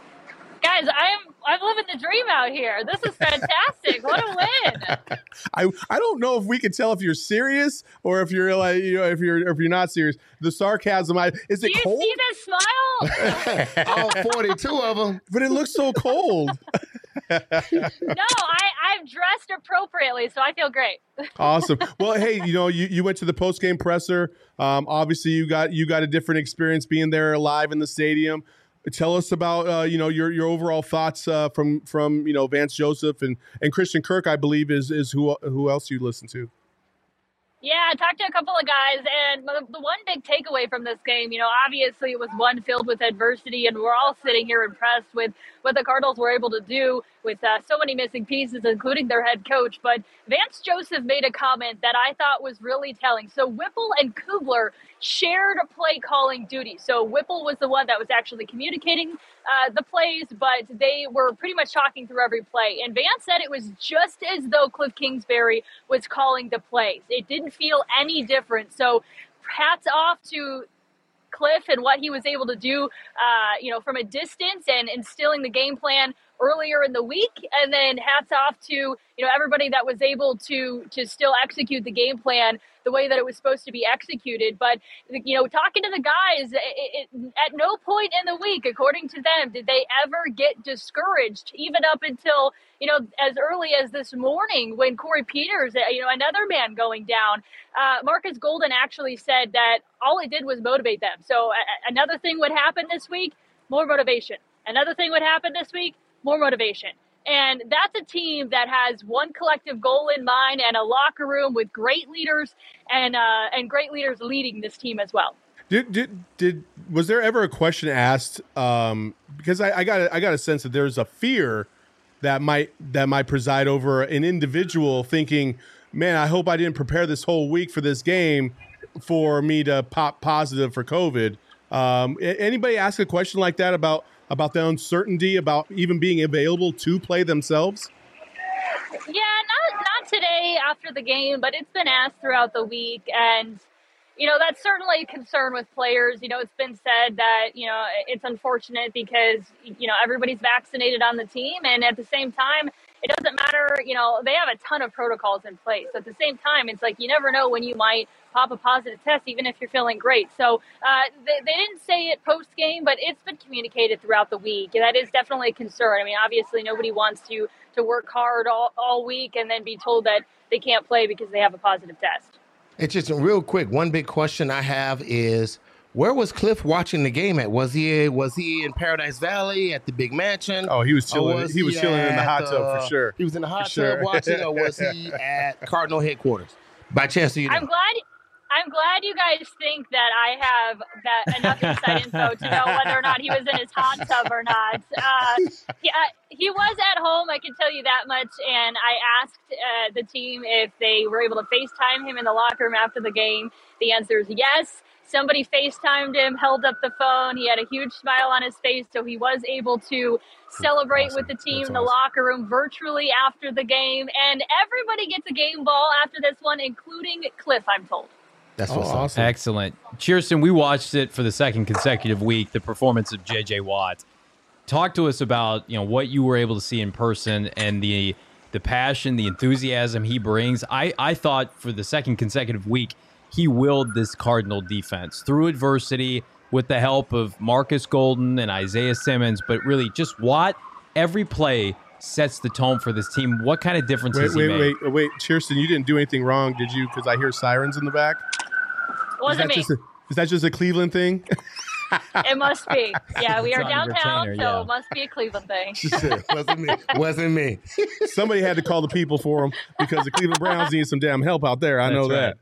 Guys, I'm I'm living the dream out here. This is fantastic. What a win! I I don't know if we can tell if you're serious or if you're like you know if you're if you're not serious. The sarcasm. I, is it Do you cold? See that smile? All forty-two of them. But it looks so cold. No, I I've dressed appropriately, so I feel great. Awesome. Well, hey, you know, you, you went to the post game presser. Um, obviously, you got you got a different experience being there live in the stadium. Tell us about uh, you know your your overall thoughts uh, from from you know Vance Joseph and, and Christian Kirk, I believe is is who who else you listen to. Yeah, I talked to a couple of guys, and the, the one big takeaway from this game, you know, obviously it was one filled with adversity, and we're all sitting here impressed with what the Cardinals were able to do with uh, so many missing pieces, including their head coach. But Vance Joseph made a comment that I thought was really telling. So Whipple and Kubler shared play calling duty. So Whipple was the one that was actually communicating uh, the plays, but they were pretty much talking through every play. And Vance said it was just as though Cliff Kingsbury was calling the plays. It didn't feel any different. So hats off to Cliff and what he was able to do, uh, you know, from a distance and instilling the game plan earlier in the week. And then hats off to, you know, everybody that was able to to still execute the game plan the way that it was supposed to be executed. But, you know, talking to the guys, it, it, at no point in the week, according to them, did they ever get discouraged, even up until, you know, as early as this morning when Corey Peters, you know, another man going down. Uh, Marcus Golden actually said that all it did was motivate them. So uh, another thing would happen this week, more motivation. Another thing would happen this week, more motivation. And that's a team that has one collective goal in mind and a locker room with great leaders and uh, and great leaders leading this team as well. Did did did was there ever a question asked? Um, because I, I got a, I got a sense that there's a fear that might that might preside over an individual thinking, man, I hope I didn't prepare this whole week for this game for me to pop positive for COVID. Um, anybody ask a question like that about about the uncertainty about even being available to play themselves? Yeah, not not today after the game, but it's been asked throughout the week, and you know that's certainly a concern with players. You know, it's been said that you know it's unfortunate because you know everybody's vaccinated on the team, and at the same time, it doesn't matter. You know, they have a ton of protocols in place. At the same time, it's like you never know when you might pop a positive test, even if you're feeling great. So uh, they, they didn't say it post game, but it's been communicated throughout the week. And that is definitely a concern. I mean, obviously nobody wants to, to work hard all, all week and then be told that they can't play because they have a positive test. It's just real quick. One big question I have is, where was Cliff watching the game at? Was he was he in Paradise Valley at the big mansion? Oh, he was chilling. Was he, he was chilling in the hot tub uh, for sure. He was in the hot for tub sure. watching, or was he at Cardinal headquarters? By chance, do you know? I'm glad. I'm glad you guys think that I have that enough inside info to know whether or not he was in his hot tub or not. Uh, yeah, he was at home, I can tell you that much. And I asked uh, the team if they were able to FaceTime him in the locker room after the game. The answer is yes. Somebody FaceTimed him, held up the phone. He had a huge smile on his face, so he was able to celebrate awesome. with the team That's in the awesome. locker room virtually after the game. And everybody gets a game ball after this one, including Cliff, I'm told. That's what's oh, awesome. Excellent. Cheerson, we watched it for the second consecutive week, the performance of J J Watt. Talk to us about, you know, what you were able to see in person and the the passion, the enthusiasm he brings. I, I thought for the second consecutive week, he willed this Cardinal defense through adversity with the help of Marcus Golden and Isaiah Simmons, but really just Watt, every play sets the tone for this team. What kind of difference wait, has he wait, made? Wait, wait, wait. Cheerson, you didn't do anything wrong, did you? Because I hear sirens in the back. Wasn't is that me. Just a, is that just a Cleveland thing? It must be. Yeah, we It's are on downtown, retainer, so yeah. it must be a Cleveland thing. Wasn't me. Wasn't me. Somebody had to call the people for him because the Cleveland Browns need some damn help out there. I That's know right.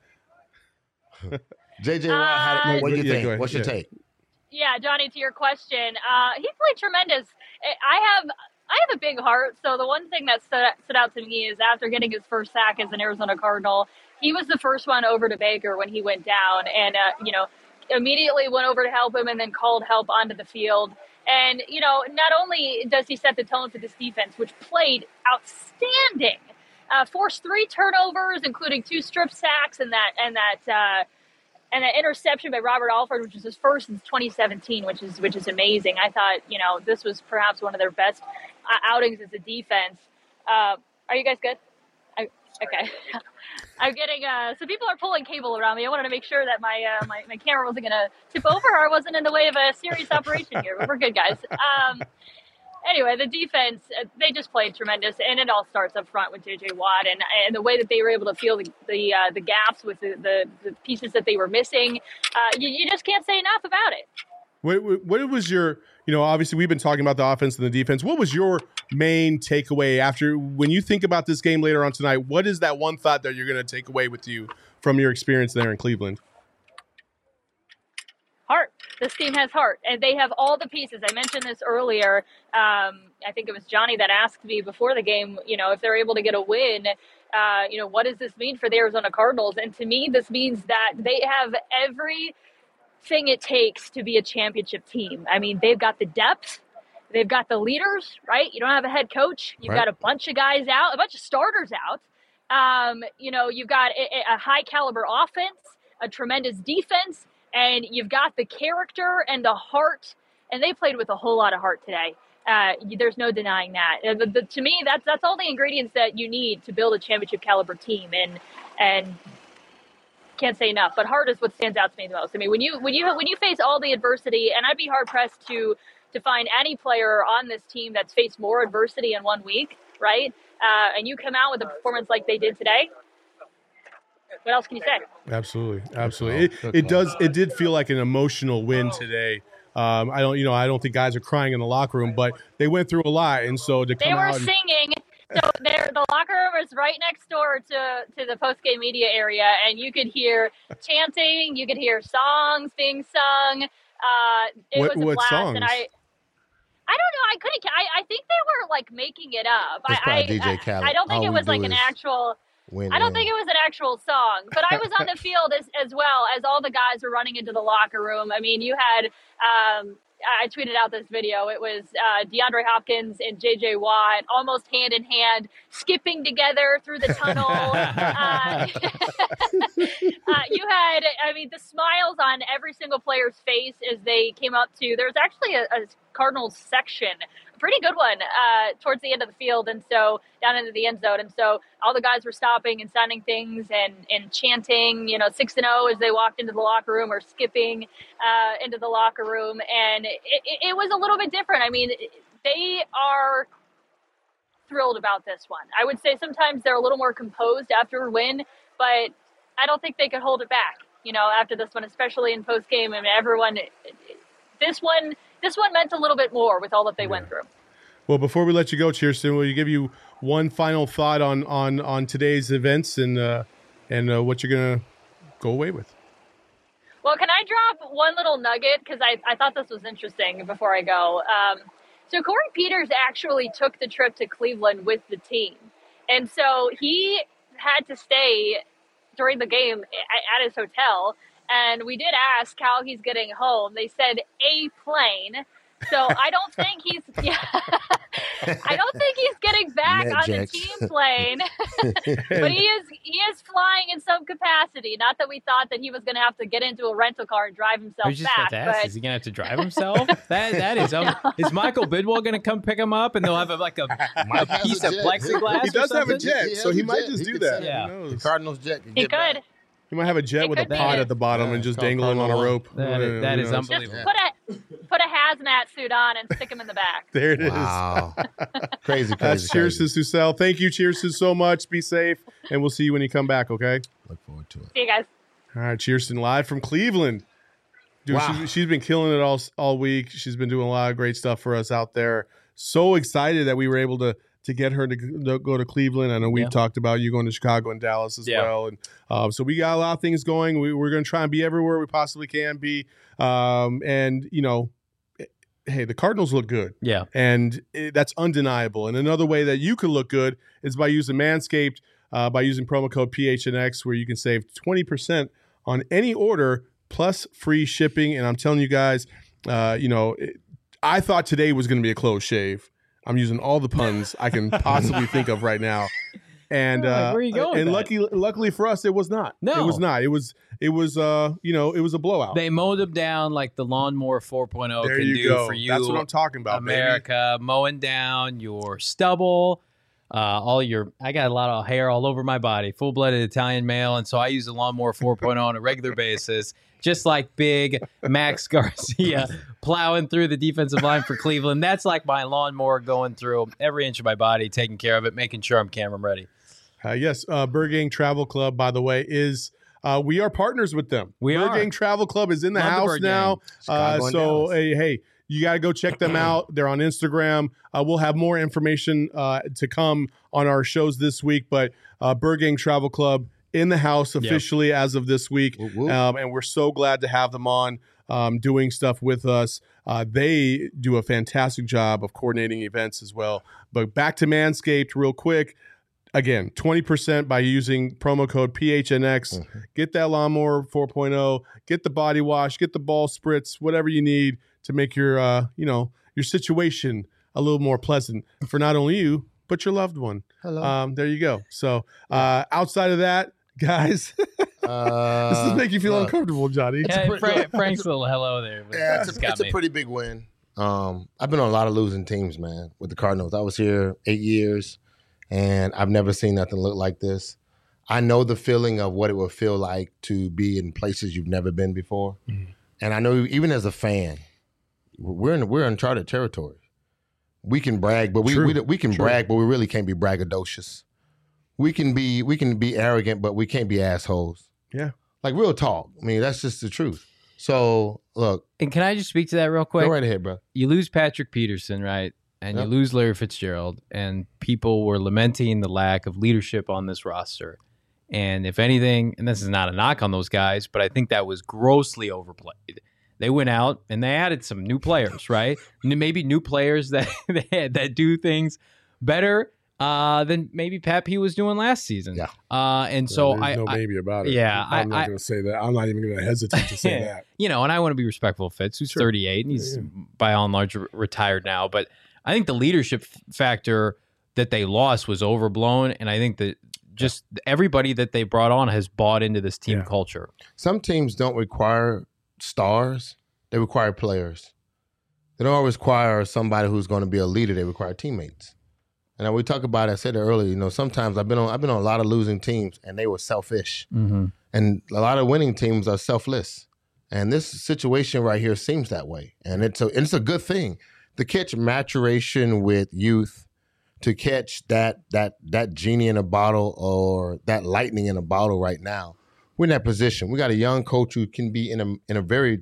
that. J J Watt, Uh, what do you Yeah, think? go ahead. What's your Yeah. take? Yeah, Johnny, to your question, uh, he played tremendous. I have I have a big heart, so the one thing that stood, stood out to me is after getting his first sack as an Arizona Cardinal, he was the first one over to Baker when he went down, and uh, you know, immediately went over to help him, and then called help onto the field. And you know, not only does he set the tone for this defense, which played outstanding, uh, forced three turnovers, including two strip sacks, and that and that. Uh, And an interception by Robert Alford, which was his first since twenty seventeen, which is which is amazing. I thought, you know, this was perhaps one of their best uh, outings as a defense. Uh, are you guys good? I, okay. I'm getting uh, so people are pulling cable around me. I wanted to make sure that my uh, my, my camera wasn't going to tip over or I wasn't in the way of a serious operation here. But we're good, guys. Um, Anyway, the defense, uh, they just played tremendous, and it all starts up front with J J Watt, and, and the way that they were able to fill the the, uh, the gaps with the, the, the pieces that they were missing. Uh, you, you just can't say enough about it. What, what what was your, you know, obviously we've been talking about the offense and the defense. What was your main takeaway after, when you think about this game later on tonight, what is that one thought that you're going to take away with you from your experience there in Cleveland? Heart. This team has heart, and they have all the pieces. I mentioned this earlier. Um, I think it was Johnny that asked me before the game, you know, if they're able to get a win, uh, you know, what does this mean for the Arizona Cardinals? And to me, this means that they have everything it takes to be a championship team. I mean, they've got the depth. They've got the leaders, right? You don't have a head coach. You've Right. got a bunch of guys out, a bunch of starters out. Um, you know, you've got a, a high caliber offense, a tremendous defense, and you've got the character and the heart, and they played with a whole lot of heart today. Uh, there's no denying that. Uh, the, the, to me, that's that's all the ingredients that you need to build a championship caliber team, and and can't say enough. But heart is what stands out to me the most. I mean, when you when you when you face all the adversity, and I'd be hard pressed to to find any player on this team that's faced more adversity in one week, right? Uh, and you come out with a performance like they did today. What else can you say? Absolutely, absolutely. It, it does. It did feel like an emotional win today. Um, I don't, you know, I don't think guys are crying in the locker room, but they went through a lot, and so to come They were out and, singing. So there, the locker room is right next door to to the post game media area, and you could hear chanting, you could hear songs being sung. Uh, it What- was a what blast, songs? and I. I don't know. I couldn't. I, I think they were like making it up. It's I, probably I, D J I- Khaled. I don't think All it we was do like an is actual. Win, I don't win. think it was an actual song, but I was on the field as, as well as all the guys were running into the locker room. I mean, you had, um, I tweeted out this video. It was uh, DeAndre Hopkins and J J Watt almost hand in hand, skipping together through the tunnel. uh, uh, you had, I mean, the smiles on every single player's face as they came up to. There was actually a, a Cardinals section, a pretty good one, uh, towards the end of the field, and so down into the end zone. And so all the guys were stopping and signing things and, and chanting, you know, six and oh as they walked into the locker room, or skipping uh, into the locker room. And it, it, it was a little bit different. I mean, they are thrilled about this one. I would say sometimes they're a little more composed after a win, but I don't think they could hold it back, you know, after this one, especially in post game. I mean, everyone, this one, this one meant a little bit more with all that they yeah. went through. Well, before we let you go, Kirsten, will you give you one final thought on on on today's events and uh, and uh, what you're gonna go away with? Well, can I drop one little nugget, because I I thought this was interesting before I go. Um, so Corey Peters actually took the trip to Cleveland with the team, and so he had to stay during the game at his hotel. And we did ask how he's getting home. They said a plane. So I don't think he's. Yeah, I don't think he's getting back Net on jets. the team plane. But he is. He is flying in some capacity. Not that we thought that he was going to have to get into a rental car and drive himself I was just back. about to ask, But is he going to have to drive himself? that that is. Um, is Michael Bidwell going to come pick him up, and they'll have a, like a, Mike a has piece a of jet. plexiglass? He does or have a something? jet, He so has he a might jet. just He do could that. send Yeah. Who The knows? Cardinals jet can he get could. back. He might have a jet It with a could be. pod at the bottom Yeah, and just it's called dangling on a Cardinal rope. That is- that Who is knows? unbelievable. Just put a put a hazmat suit on and stick him in the back. There it is. Wow. crazy, crazy. That's crazy. Kirsten Susel. Thank you, Kirsten, so much. Be safe, and we'll see you when you come back, okay? Look forward to it. See you guys. All right, Kirsten, live from Cleveland. Dude, Wow. she, she's been killing it all all week. She's been doing a lot of great stuff for us out there. So excited that we were able to to get her to go go to Cleveland. I know we've Yeah. talked about you going to Chicago and Dallas as Yeah. well. And um, so we got a lot of things going. We, we're going to try and be everywhere we possibly can be. Um, and, you know, hey, the Cardinals look good. Yeah. And it, that's undeniable. And another way that you can look good is by using Manscaped, uh, by using promo code P H N X, where you can save twenty percent on any order plus free shipping. And I'm telling you guys, uh, you know, it, I thought today was going to be a close shave. I'm using all the puns I can possibly think of right now. And Oh, like, uh, where are you going and with lucky, luckily for us, it was not. No. it was not. It was it was uh you know it was a blowout. They mowed them down like the lawnmower four point oh there can you do go. for you. That's what I'm talking about, baby. America, mowing down your stubble, uh, all your. I got a lot of hair all over my body, full-blooded Italian male, and so I use the lawnmower four point oh on a regular basis, just like big Max Garcia plowing through the defensive line for Cleveland. That's like my lawnmower going through every inch of my body, taking care of it, making sure I'm camera ready. Uh, yes, uh, Bird Gang Travel Club, by the way, is uh, we are partners with them. We Bird are. Gang Travel Club is in the Love the house Bird now. Gang. Uh, Chicago and so Dallas. hey, hey, you got to go check them out. They're on Instagram. Uh, we'll have more information uh, to come on our shows this week. But uh, Bird Gang Travel Club in the house officially as of this week, Whoop, whoop. um, and we're so glad to have them on. Um, doing stuff with us. Uh, they do a fantastic job of coordinating events as well. But back to Manscaped real quick. Again, twenty percent by using promo code P H N X. Mm-hmm. Get that lawnmower four point oh, get the body wash, get the ball spritz, whatever you need to make your uh, you know, your situation a little more pleasant for not only you, but your loved one. Hello. Um, there you go. So uh, outside of that, guys, Uh, this does make you feel look, uncomfortable, Johnny. Yeah, pretty- Frank, Frank's little hello there. Yeah, it's, It's a, got it's a me. pretty big win. Um, I've been on a lot of losing teams, man, with the Cardinals. I was here eight years, and I've never seen nothing look like this. I know the feeling of what it would feel like to be in places you've never been before, Mm-hmm. and I know even as a fan, we're in we're uncharted territory. We can brag, but we True. we, we can True. brag, but we really can't be braggadocious. We can be we can be arrogant, but we can't be assholes. Yeah. Like real talk. I mean, that's just the truth. So look, And can I just speak to that real quick? go right ahead, bro. You lose Patrick Peterson, right? And Yep. you lose Larry Fitzgerald, and people were lamenting the lack of leadership on this roster. And if anything, and this is not a knock on those guys, but I think that was grossly overplayed. They went out and they added some new players, right? N- Maybe new players that that do things better uh, than maybe Pat P was doing last season. Yeah. Uh, and so There's I, no I baby about it. yeah, I'm I- not I- going to say that. I'm not even going to hesitate to say that. you know, and I want to be respectful of Fitz, who's Sure. thirty-eight, and he's Yeah. by all and large re- retired now. But I think the leadership f- factor that they lost was overblown, and I think that just everybody that they brought on has bought into this team Yeah. culture. Some teams don't require stars; they require players. They don't always require somebody who's going to be a leader. They require teammates. And we talk about it, I said it earlier, you know, sometimes I've been on I've been on a lot of losing teams and they were selfish. Mm-hmm. And a lot of winning teams are selfless. And this situation right here seems that way. And it's a it's a good thing to catch maturation with youth, to catch that that that genie in a bottle or that lightning in a bottle right now. We're in that position. We got a young coach who can be in a in a very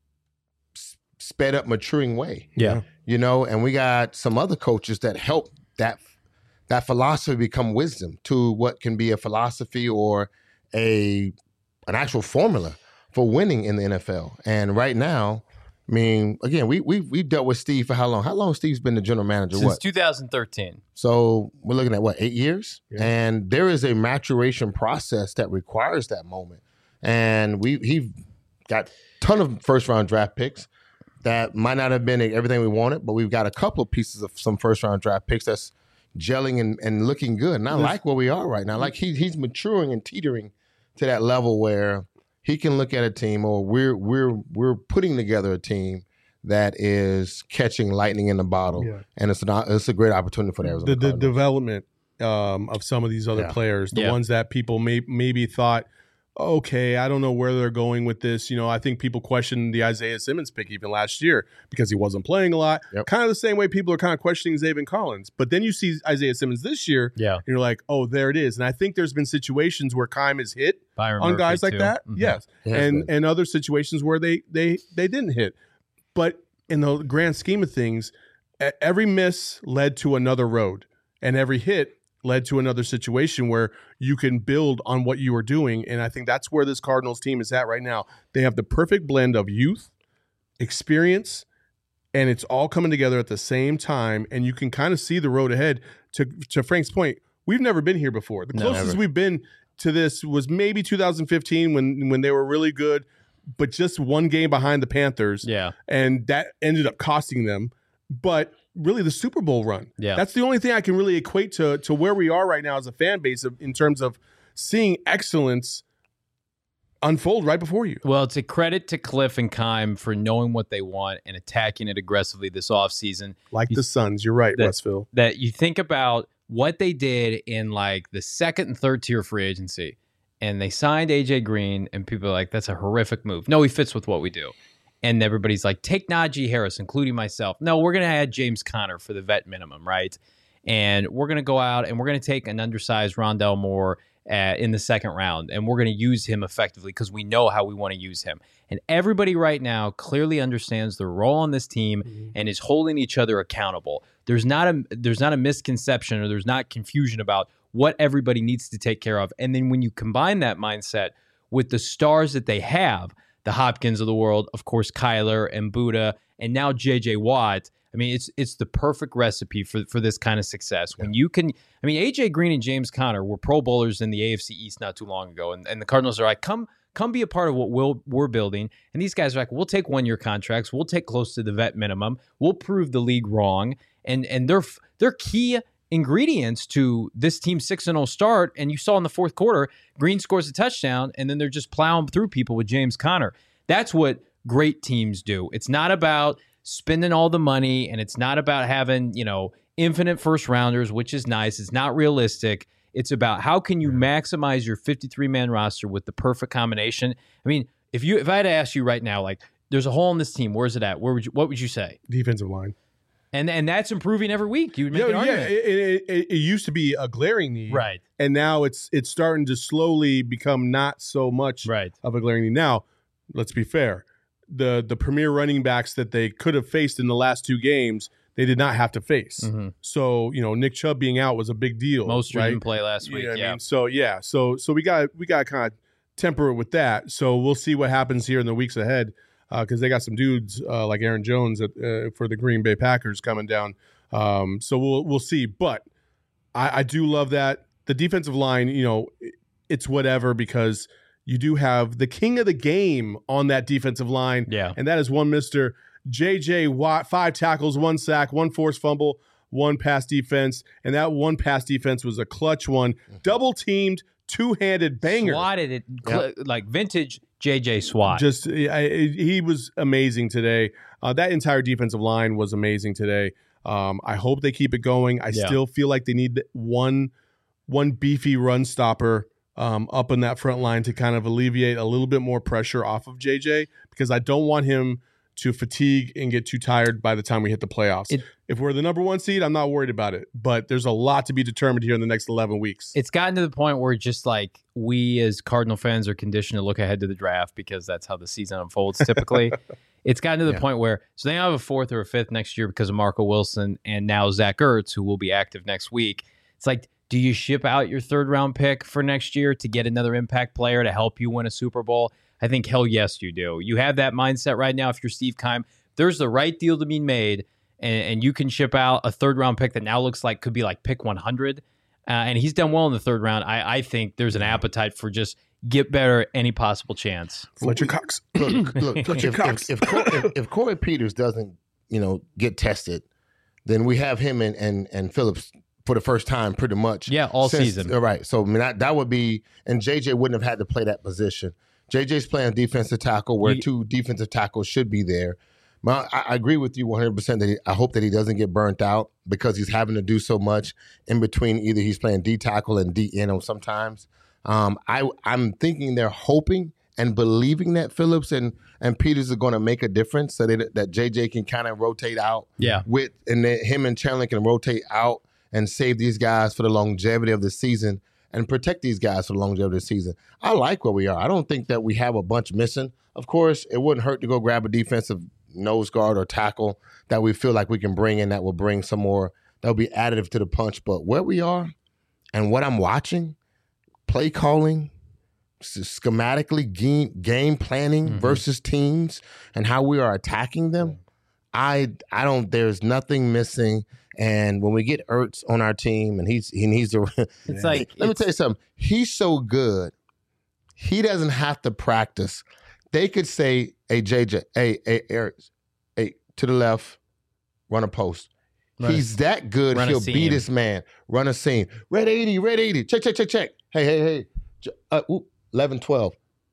sped up, maturing way. Yeah. You know, and we got some other coaches that help that that philosophy become wisdom to what can be a philosophy or a an actual formula for winning in the N F L. And right now, I mean, again, we we we dealt with Steve for how long? How long Steve's been the general manager? Since What? two thousand thirteen. So we're looking at what, eight years? Yeah. And there is a maturation process that requires that moment. And we he got a ton of first round draft picks that might not have been everything we wanted, but we've got a couple of pieces of some first round draft picks that's gelling and, and looking good. And I There's- like where we are right now. Like he, he's maturing and teetering to that level where he can look at a team, or we're we're we're putting together a team that is catching lightning in the bottle, Yeah. and it's an it's a great opportunity for the Arizona the, the Cardinals. development um, of some of these other Yeah. players, the Yeah. ones that people may, maybe thought, okay, I don't know where they're going with this. You know, I think people questioned the Isaiah Simmons pick even last year because he wasn't playing a lot. Yep. Kind of the same way people are kind of questioning Zaven Collins. But then you see Isaiah Simmons this year, Yeah. and you're like, oh, there it is. And I think there's been situations where Kime has hit Byron on Murphy, guys like too. that. Mhm. Yes. He has and been. and other situations where they they they didn't hit. But in the grand scheme of things, e- every miss led to another road, and every hit led to another situation where you can build on what you are doing. And I think that's where this Cardinals team is at right now. They have the perfect blend of youth, experience, and it's all coming together at the same time. And you can kind of see the road ahead. To to Frank's point, we've never been here before. The No, closest never. we've been to this was maybe two thousand fifteen when when they were really good, but just one game behind the Panthers. Yeah. And that ended up costing them. But really, the Super Bowl run. Yeah. That's the only thing I can really equate to to where we are right now as a fan base of, in terms of seeing excellence unfold right before you. Well, it's a credit to Cliff and Kime for knowing what they want and attacking it aggressively this offseason. Like the Suns. You're right, That- Westville. That you think about what they did in like the second and third tier free agency, and they signed A J Green, and people are like, that's a horrific move. No, he fits with what we do. And everybody's like, take Najee Harris, including myself. No, we're going to add James Conner for the vet minimum, right? And we're going to go out and we're going to take an undersized Rondell Moore uh, in the second round, and we're going to use him effectively because we know how we want to use him. And everybody right now clearly understands their role on this team Mm-hmm. and is holding each other accountable. There's not a there's not a misconception or there's not confusion about what everybody needs to take care of. And then when you combine that mindset with the stars that they have, the Hopkins of the world, of course, Kyler and Buddha, and now J J Watt. I mean, it's it's the perfect recipe for, for this kind of success. When you can, I mean, A J Green and James Conner were Pro Bowlers in the A F C East not too long ago, and, and the Cardinals are like, come come be a part of what we'll, we're building. And these guys are like, we'll take one-year contracts, we'll take close to the vet minimum, we'll prove the league wrong, and and they're they're key ingredients to this team's six and oh start. And you saw in the fourth quarter, Green scores a touchdown, and then they're just plowing through people with James Conner. That's what great teams do. It's not about spending all the money, and it's not about having, you know, infinite first rounders, which is nice. It's not realistic. It's about how can you maximize your fifty-three man roster with the perfect combination. I mean, if you if I had to ask you right now, like, there's a hole in this team, where's it at? Where would you, what would you say? Defensive line. And and that's improving every week. You would make Yeah, an yeah. argument. It, it, it, it used to be a glaring need, Right. And now it's it's starting to slowly become not so much Right. of a glaring need. Now, let's be fair. The the premier running backs that they could have faced in the last two games, they did not have to face. Mhm. So, you know, Nick Chubb being out was a big deal. Most right? didn't play last You week. know what I Yeah. mean? So yeah, so so we got we got to kind of temper it with that. So we'll see what happens here in the weeks ahead because they got some dudes uh, like Aaron Jones at, uh, for the Green Bay Packers coming down. Um, so we'll we'll see. But I, I do love that. The defensive line, you know, it's whatever because you do have the king of the game on that defensive line. Yeah. And that is one Mister J J Watt, five tackles, one sack, one forced fumble, one pass defense. And that one pass defense was a clutch one. Double teamed, two-handed banger. Swatted it yep. like vintage J J SWAT. Just I, he was amazing today. Uh, that entire defensive line was amazing today. Um, I hope they keep it going. I yeah. still feel like they need one one beefy run stopper um, up in that front line to kind of alleviate a little bit more pressure off of J J because I don't want him to fatigue and get too tired by the time we hit the playoffs. It, if we're the number one seed, I'm not worried about it. But there's a lot to be determined here in the next eleven weeks. It's gotten to the point where just like we as Cardinal fans are conditioned to look ahead to the draft because that's how the season unfolds typically. It's gotten to the yeah. point where so they have a fourth or a fifth next year because of Marco Wilson and now Zach Ertz, who will be active next week. It's like, do you ship out your third round pick for next year to get another impact player to help you win a Super Bowl? I think, hell yes, you do. You have that mindset right now. If you're Steve Keim, there's the right deal to be made, and, and you can ship out a third-round pick that now looks like could be like pick one hundred, uh, and he's done well in the third round. I, I think there's an appetite for just get better any possible chance. Fletcher Cox. Look, look Fletcher if, Cox. If, if, if, if Corey Peters doesn't, you know, get tested, then we have him and and, and Phillips for the first time pretty much. Yeah, all since, season. All right, so I mean, that, that would be – and J J wouldn't have had to play that position. J J's playing defensive tackle where you, two defensive tackles should be there. I, I agree with you one hundred percent that he, I hope that he doesn't get burnt out because he's having to do so much in between. Either he's playing D tackle and D end sometimes. Um, I, I'm thinking they're hoping and believing that Phillips and, and Peters are going to make a difference so that, that J J can kind of rotate out. Yeah. With, and then him and Chandler can rotate out and save these guys for the longevity of the season and protect these guys for the longevity of the season. I like where we are. I don't think that we have a bunch missing. Of course, it wouldn't hurt to go grab a defensive nose guard or tackle that we feel like we can bring in that will bring some more, that will be additive to the punch. But where we are and what I'm watching, play calling, schematically game, game planning mm-hmm. versus teams and how we are attacking them, I I don't, there's nothing missing. And when we get Ertz on our team, and he's he needs to, it's like let me tell you something. He's so good, he doesn't have to practice. They could say, "Hey J J, hey hey Ertz, hey to the left, run a post." Run he's a, that good. He'll beat this man. Run a seam. Red eighty, red eighty. Check check check check. Hey hey hey. Uh, ooh, eleven twelve.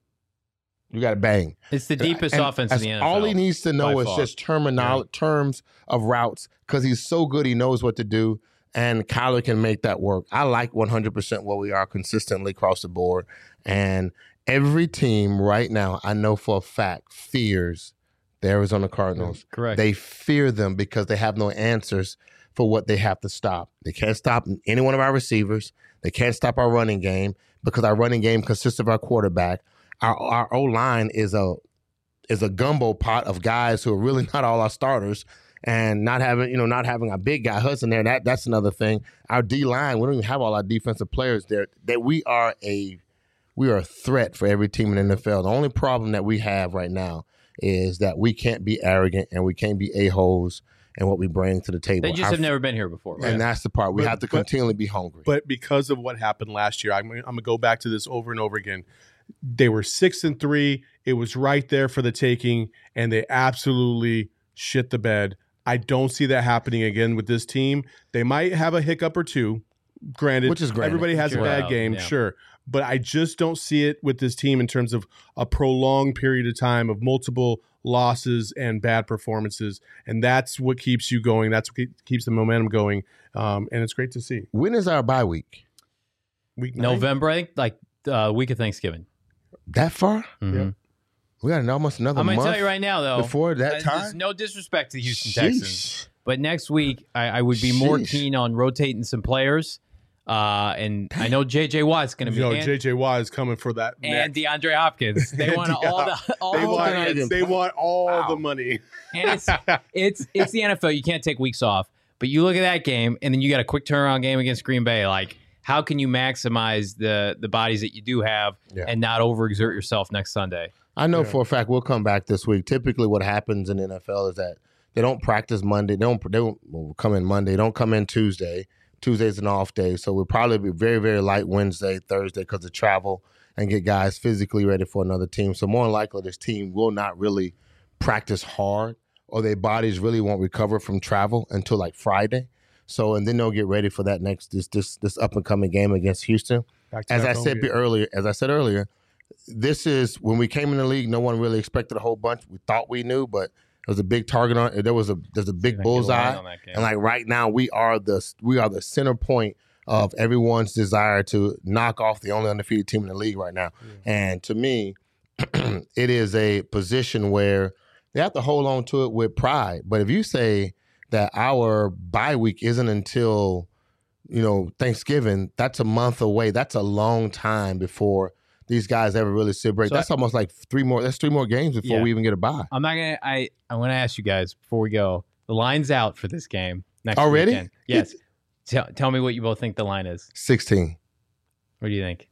You got to bang. It's the deepest and, offense in the N F L. All he needs to know is far. just terminal, yeah. terms of routes because he's so good. He knows what to do, and Kyler can make that work. I like one hundred percent where we are consistently across the board. And every team right now, I know for a fact, fears the Arizona Cardinals. Yeah, correct. They fear them because they have no answers for what they have to stop. They can't stop any one of our receivers. They can't stop our running game because our running game consists of our quarterback. Our our O-line is a is a gumbo pot of guys who are really not all our starters, and not having you know not having a big guy Hudson there. That that's another thing. Our D-line, we don't even have all our defensive players there. That we are a we are a threat for every team in the N F L. The only problem that we have right now is that we can't be arrogant and we can't be a-holes in what we bring to the table. They just our, have never been here before, right? And that's the part. We but, have to continually but, be hungry. But because of what happened last year, I'm, I'm going to go back to this over and over again. They were six and three. It was right there for the taking, and they absolutely shit the bed. I don't see that happening again with this team. They might have a hiccup or two. Granted, which is granted. Everybody has sure. a bad Wow, game, yeah. sure. But I just don't see it with this team in terms of a prolonged period of time of multiple losses and bad performances. And that's what keeps you going. That's what keeps the momentum going. Um, and it's great to see. When is our bye week? Week nine? November, I think, like uh, week of Thanksgiving. That far? Mm-hmm. Yeah. We got almost another I'm month. going to tell you right now, though. Before that uh, time? There's no disrespect to the Houston Sheesh. Texans. But next week, I, I would be more Sheesh. keen on rotating some players. Uh, and I know J J Watt's going to be. Yo, and, J J Watt is coming for that. And next. DeAndre Hopkins. They want Yeah. all the all They the want, money. they want all Wow. the money. And it's it's it's the N F L. You can't take weeks off. But you look at that game, and then you got a quick turnaround game against Green Bay. Like, how can you maximize the the bodies that you do have Yeah. and not overexert yourself next Sunday? I know Yeah. for a fact we'll come back this week. Typically what happens in the N F L is that they don't practice Monday. They don't, they don't well, come in Monday. They don't come in Tuesday. Tuesday's an off day. So we'll probably be very, very light Wednesday, Thursday because of travel and get guys physically ready for another team. So more than likely this team will not really practice hard or their bodies really won't recover from travel until like Friday. So, and then they'll get ready for that next, this this this up-and-coming game against Houston. As I said game. earlier, as I said earlier, this is, when we came in the league, no one really expected a whole bunch. We thought we knew, but there was a big target on. There was a there's a big bullseye, and like right now, we are the we are the center point of everyone's desire to knock off the only undefeated team in the league right now. Mm. And to me, it is a position where they have to hold on to it with pride. But if you say that our bye week isn't until, you know, Thanksgiving, that's a month away. That's a long time before these guys ever really sit break. So that's I, almost like three more. That's three more games before yeah. we even get a bye. I'm not gonna. I I want to ask you guys before we go. The line's out for this game next already. Weekend. Yes. tell, tell me what you both think the line is. sixteen. What do you think?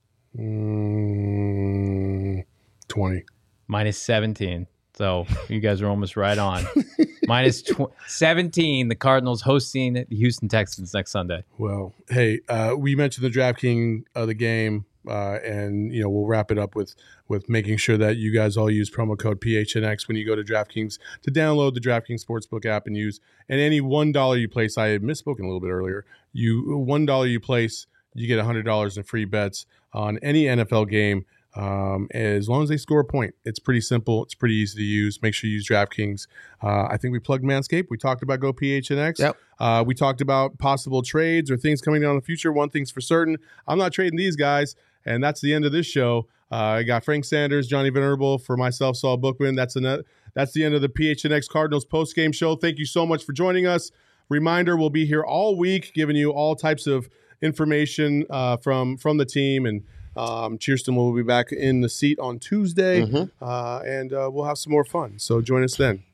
Mm, twenty. Minus seventeen. So you guys are almost right on. Minus tw- seventeen. The Cardinals hosting the Houston Texans next Sunday. Well, hey, uh, we mentioned the DraftKings of the game. Uh, and, you know, we'll wrap it up with with making sure that you guys all use promo code P H N X when you go to DraftKings to download the DraftKings Sportsbook app and use. And any one dollar you place, I had misspoken a little bit earlier, you one dollar you place, you get one hundred dollars in free bets on any N F L game um, as long as they score a point. It's pretty simple. It's pretty easy to use. Make sure you use DraftKings. Uh, I think we plugged Manscaped. We talked about Go P H N X. Yep. Uh, we talked about possible trades or things coming down in the future. One thing's for certain. I'm not trading these guys. And that's the end of this show. Uh, I got Frank Sanders, Johnny Venerable, for myself, Saul Bookman. That's the that's the end of the P H N X Cardinals post-game show. Thank you so much for joining us. Reminder, we'll be here all week giving you all types of information uh, from, from the team. And um, Cheerston will be back in the seat on Tuesday. Mm-hmm. uh, and uh, we'll have some more fun. So join us then.